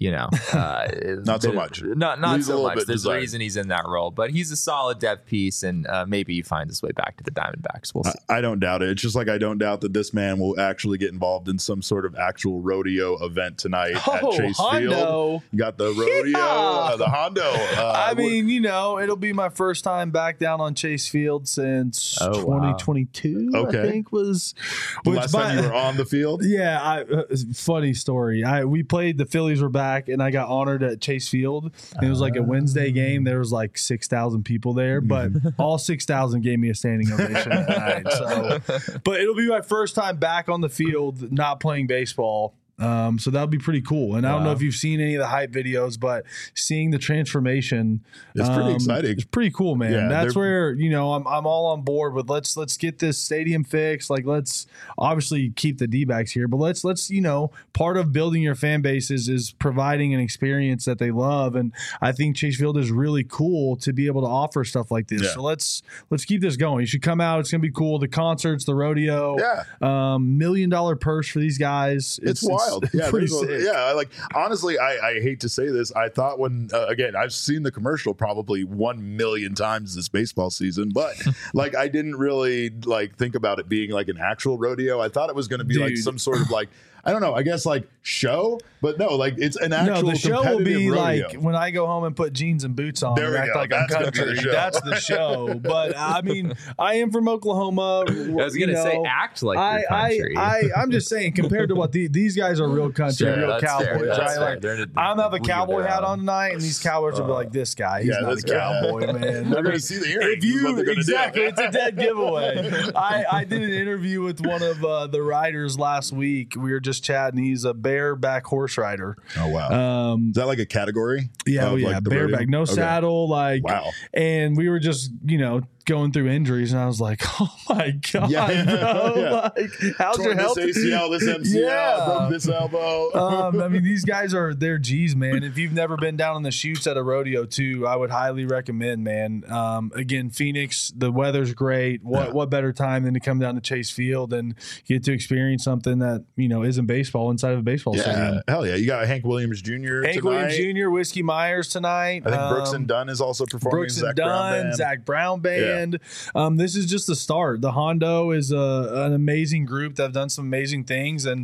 [SPEAKER 2] Not so much.
[SPEAKER 3] Not
[SPEAKER 2] Leaves a
[SPEAKER 3] so
[SPEAKER 2] little
[SPEAKER 3] much.
[SPEAKER 2] bit
[SPEAKER 3] There's a
[SPEAKER 2] desired.
[SPEAKER 3] reason he's in that role, but he's a solid depth piece, and maybe he finds his way back to the Diamondbacks. We'll see.
[SPEAKER 2] I don't doubt it. It's just like I don't doubt that this man will actually get involved in some sort of actual rodeo event tonight at Chase Field.
[SPEAKER 1] Hondo.
[SPEAKER 2] You got the rodeo,
[SPEAKER 1] Yeah.
[SPEAKER 2] the Hondo.
[SPEAKER 1] I mean, it'll be my first time back down on Chase Field since
[SPEAKER 3] Oh, wow.
[SPEAKER 1] 2022.
[SPEAKER 2] Okay.
[SPEAKER 1] I think was
[SPEAKER 2] the
[SPEAKER 1] which
[SPEAKER 2] last time you were on the field.
[SPEAKER 1] Yeah, funny story. We played, the Phillies were back, and I got honored at Chase Field. And it was like a Wednesday game. There was like 6,000 people there, but all 6,000 gave me a standing ovation that night. So, but it'll be my first time back on the field, not playing baseball. So that'll be pretty cool. And I don't know if you've seen any of the hype videos, but seeing the transformation,
[SPEAKER 2] It's pretty exciting.
[SPEAKER 1] It's pretty cool, man.
[SPEAKER 2] Yeah,
[SPEAKER 1] That's where, I'm all on board with let's get this stadium fixed. Like, let's obviously keep the D-backs here, but let's part of building your fan base is providing an experience that they love. And I think Chase Field is really cool to be able to offer stuff like this.
[SPEAKER 2] Yeah.
[SPEAKER 1] So let's keep this going. You should come out. It's going to be cool. The concerts, the rodeo,
[SPEAKER 2] Yeah.
[SPEAKER 1] $1 million purse for these guys.
[SPEAKER 2] It's wild. Yeah,
[SPEAKER 1] pretty
[SPEAKER 2] there's
[SPEAKER 1] sick.
[SPEAKER 2] I like, honestly, I hate to say this. I thought when again, I've seen the commercial probably 1 million times this baseball season, but like I didn't really like think about it being like an actual rodeo. I thought it was going to be like
[SPEAKER 1] Dude.
[SPEAKER 2] some sort of like, I don't know, I guess like show, but no, like it's an actual
[SPEAKER 1] No, the show will be
[SPEAKER 2] competitive rodeo.
[SPEAKER 1] like when I go home and put jeans and boots on
[SPEAKER 2] There
[SPEAKER 1] and
[SPEAKER 2] we
[SPEAKER 1] act
[SPEAKER 2] go.
[SPEAKER 1] like I'm
[SPEAKER 2] That's gonna be the
[SPEAKER 1] country.
[SPEAKER 2] show.
[SPEAKER 1] That's the show. But I mean, I am from Oklahoma.
[SPEAKER 3] I was going to say, act like you're country.
[SPEAKER 1] I'm just saying, compared to what these guys are, real country,
[SPEAKER 3] Sure,
[SPEAKER 1] real
[SPEAKER 3] that's
[SPEAKER 1] cowboys.
[SPEAKER 3] fair, that's
[SPEAKER 1] Right?
[SPEAKER 3] fair.
[SPEAKER 1] Like,
[SPEAKER 3] They're in a
[SPEAKER 1] I'm have a
[SPEAKER 3] league of
[SPEAKER 1] cowboy
[SPEAKER 3] their
[SPEAKER 1] hat
[SPEAKER 3] own.
[SPEAKER 1] on tonight, and these cowboys will be like, "This guy, he's
[SPEAKER 2] yeah,
[SPEAKER 1] not
[SPEAKER 2] this
[SPEAKER 1] a
[SPEAKER 2] guy.
[SPEAKER 1] cowboy, man."
[SPEAKER 2] They're going to see the earrings.
[SPEAKER 1] If
[SPEAKER 2] is what
[SPEAKER 1] you
[SPEAKER 2] they're gonna
[SPEAKER 1] exactly,
[SPEAKER 2] do.
[SPEAKER 1] it's a dead giveaway. I did an interview with one of the riders last week. We were just chatting. He's a bareback horse rider.
[SPEAKER 2] Oh wow. Is that like a category?
[SPEAKER 1] Yeah,
[SPEAKER 2] of, like, the rodeo?
[SPEAKER 1] bareback, no
[SPEAKER 2] Okay.
[SPEAKER 1] saddle, like.
[SPEAKER 2] Wow.
[SPEAKER 1] And we were just, going through injuries, and I was like, "Oh my god,
[SPEAKER 2] Yeah.
[SPEAKER 1] bro!
[SPEAKER 2] Yeah.
[SPEAKER 1] Like, how's your
[SPEAKER 2] Torn
[SPEAKER 1] health?"
[SPEAKER 2] this ACL, this MCL,
[SPEAKER 1] Yeah.
[SPEAKER 2] broke this elbow.
[SPEAKER 1] I mean, these guys they're G's, man. If you've never been down in the chutes at a rodeo too, I would highly recommend, man. Again, Phoenix, the weather's great. What better time than to come down to Chase Field and get to experience something that, isn't baseball inside of a baseball stadium.
[SPEAKER 2] Hell yeah. You got Hank Williams Jr.
[SPEAKER 1] Hank
[SPEAKER 2] tonight.
[SPEAKER 1] Williams Jr., Whiskey Myers tonight.
[SPEAKER 2] I think Brooks and Dunn is also performing.
[SPEAKER 1] Brooks and
[SPEAKER 2] Zach Brown
[SPEAKER 1] Dunn,
[SPEAKER 2] Band.
[SPEAKER 1] Zach Brown Band. This is just the start. The Hondo is an amazing group that have done some amazing things, and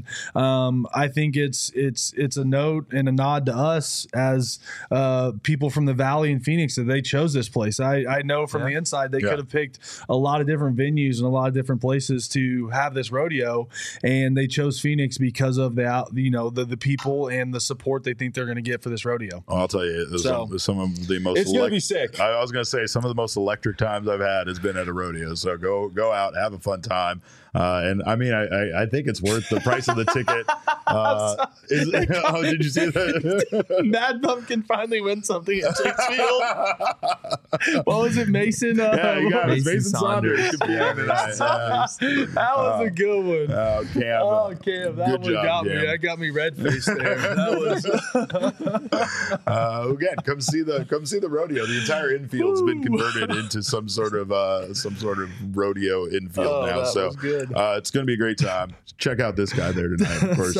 [SPEAKER 1] I think it's a note and a nod to us as people from the Valley in Phoenix that they chose this place. I know from the inside they could have picked a lot of different venues and a lot of different places to have this rodeo, and they chose Phoenix because of the people and the support they think they're going to get for this rodeo.
[SPEAKER 2] Oh, I'll tell you, some of the most.
[SPEAKER 1] It's going to be sick.
[SPEAKER 2] I was going to say some of the most electric times I've had has been at a rodeo. So go out, have a fun time, and I mean, I think it's worth the price of the ticket. Did you see that?
[SPEAKER 1] Mad Pumpkin finally win something at Chase Field. What was it, Mason?
[SPEAKER 2] Yeah, you got it.
[SPEAKER 3] Mason
[SPEAKER 2] Mason Saunders.
[SPEAKER 3] Saunders.
[SPEAKER 2] competing tonight.
[SPEAKER 1] That was a good one.
[SPEAKER 2] Oh, Cam.
[SPEAKER 1] Oh, Cam, that
[SPEAKER 2] Good
[SPEAKER 1] one
[SPEAKER 2] job,
[SPEAKER 1] got me.
[SPEAKER 2] Cam.
[SPEAKER 1] That got me red faced there. That was
[SPEAKER 2] Again, come see the rodeo. The entire infield's been converted into some sort of rodeo infield now.
[SPEAKER 1] that
[SPEAKER 2] So
[SPEAKER 1] was good.
[SPEAKER 2] it's going to be a great time. Check out this guy there tonight, of course.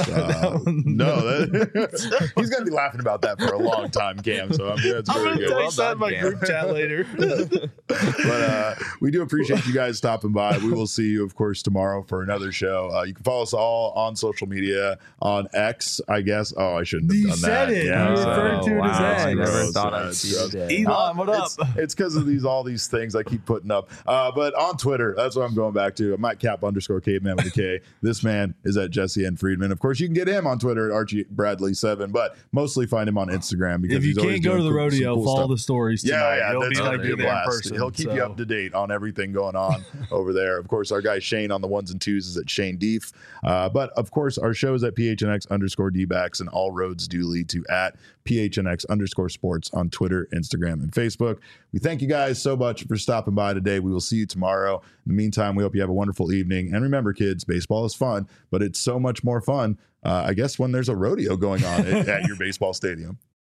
[SPEAKER 2] He's going to be laughing about that for a long time, Cam. So I'm sure it's
[SPEAKER 1] I'm
[SPEAKER 2] very
[SPEAKER 1] gonna
[SPEAKER 2] good.
[SPEAKER 1] text that in my
[SPEAKER 3] Cam.
[SPEAKER 1] group chat later.
[SPEAKER 2] But we do appreciate you guys stopping by. We will see you, of course, tomorrow for another show. You can follow us all on social media, on X, I guess. Oh, I shouldn't have
[SPEAKER 1] You
[SPEAKER 2] done
[SPEAKER 1] said
[SPEAKER 2] that.
[SPEAKER 1] it.
[SPEAKER 2] Yeah,
[SPEAKER 1] You
[SPEAKER 2] so-
[SPEAKER 1] referred to it as
[SPEAKER 3] wow,
[SPEAKER 1] X.
[SPEAKER 3] I never
[SPEAKER 2] Gross,
[SPEAKER 3] thought I'd see
[SPEAKER 2] gross.
[SPEAKER 3] the day.
[SPEAKER 1] Elon, what up?
[SPEAKER 2] It's because of all these things I keep putting up. But on Twitter, that's what I'm going back to. I'm at Cap_Caveman with a K. This man is at Jesse N. Friedman. Of course, you can get him on Twitter at Archie Bradley7, but mostly find him on Instagram because
[SPEAKER 1] If you
[SPEAKER 2] he's always
[SPEAKER 1] can't go to
[SPEAKER 2] doing
[SPEAKER 1] the
[SPEAKER 2] some
[SPEAKER 1] rodeo,
[SPEAKER 2] cool
[SPEAKER 1] follow
[SPEAKER 2] stuff.
[SPEAKER 1] the stories tonight.
[SPEAKER 2] Yeah,
[SPEAKER 1] He'll be
[SPEAKER 2] that's
[SPEAKER 1] like
[SPEAKER 2] gonna be a
[SPEAKER 1] be there in
[SPEAKER 2] blast.
[SPEAKER 1] person.
[SPEAKER 2] He'll keep you
[SPEAKER 1] so.
[SPEAKER 2] up to date on everything going on over there. Of course, our guy Shane on the ones and twos is at Shane Deef. But of course, our show is at PHNX_D-backs, and all roads do lead to at PHNX_sports on Twitter, Instagram, and Facebook. We thank you guys so much for stopping stopping by today. We will see you tomorrow. In the meantime, we hope you have a wonderful evening. And remember, kids, baseball is fun, but it's so much more fun, I guess, when there's a rodeo going on at your baseball stadium.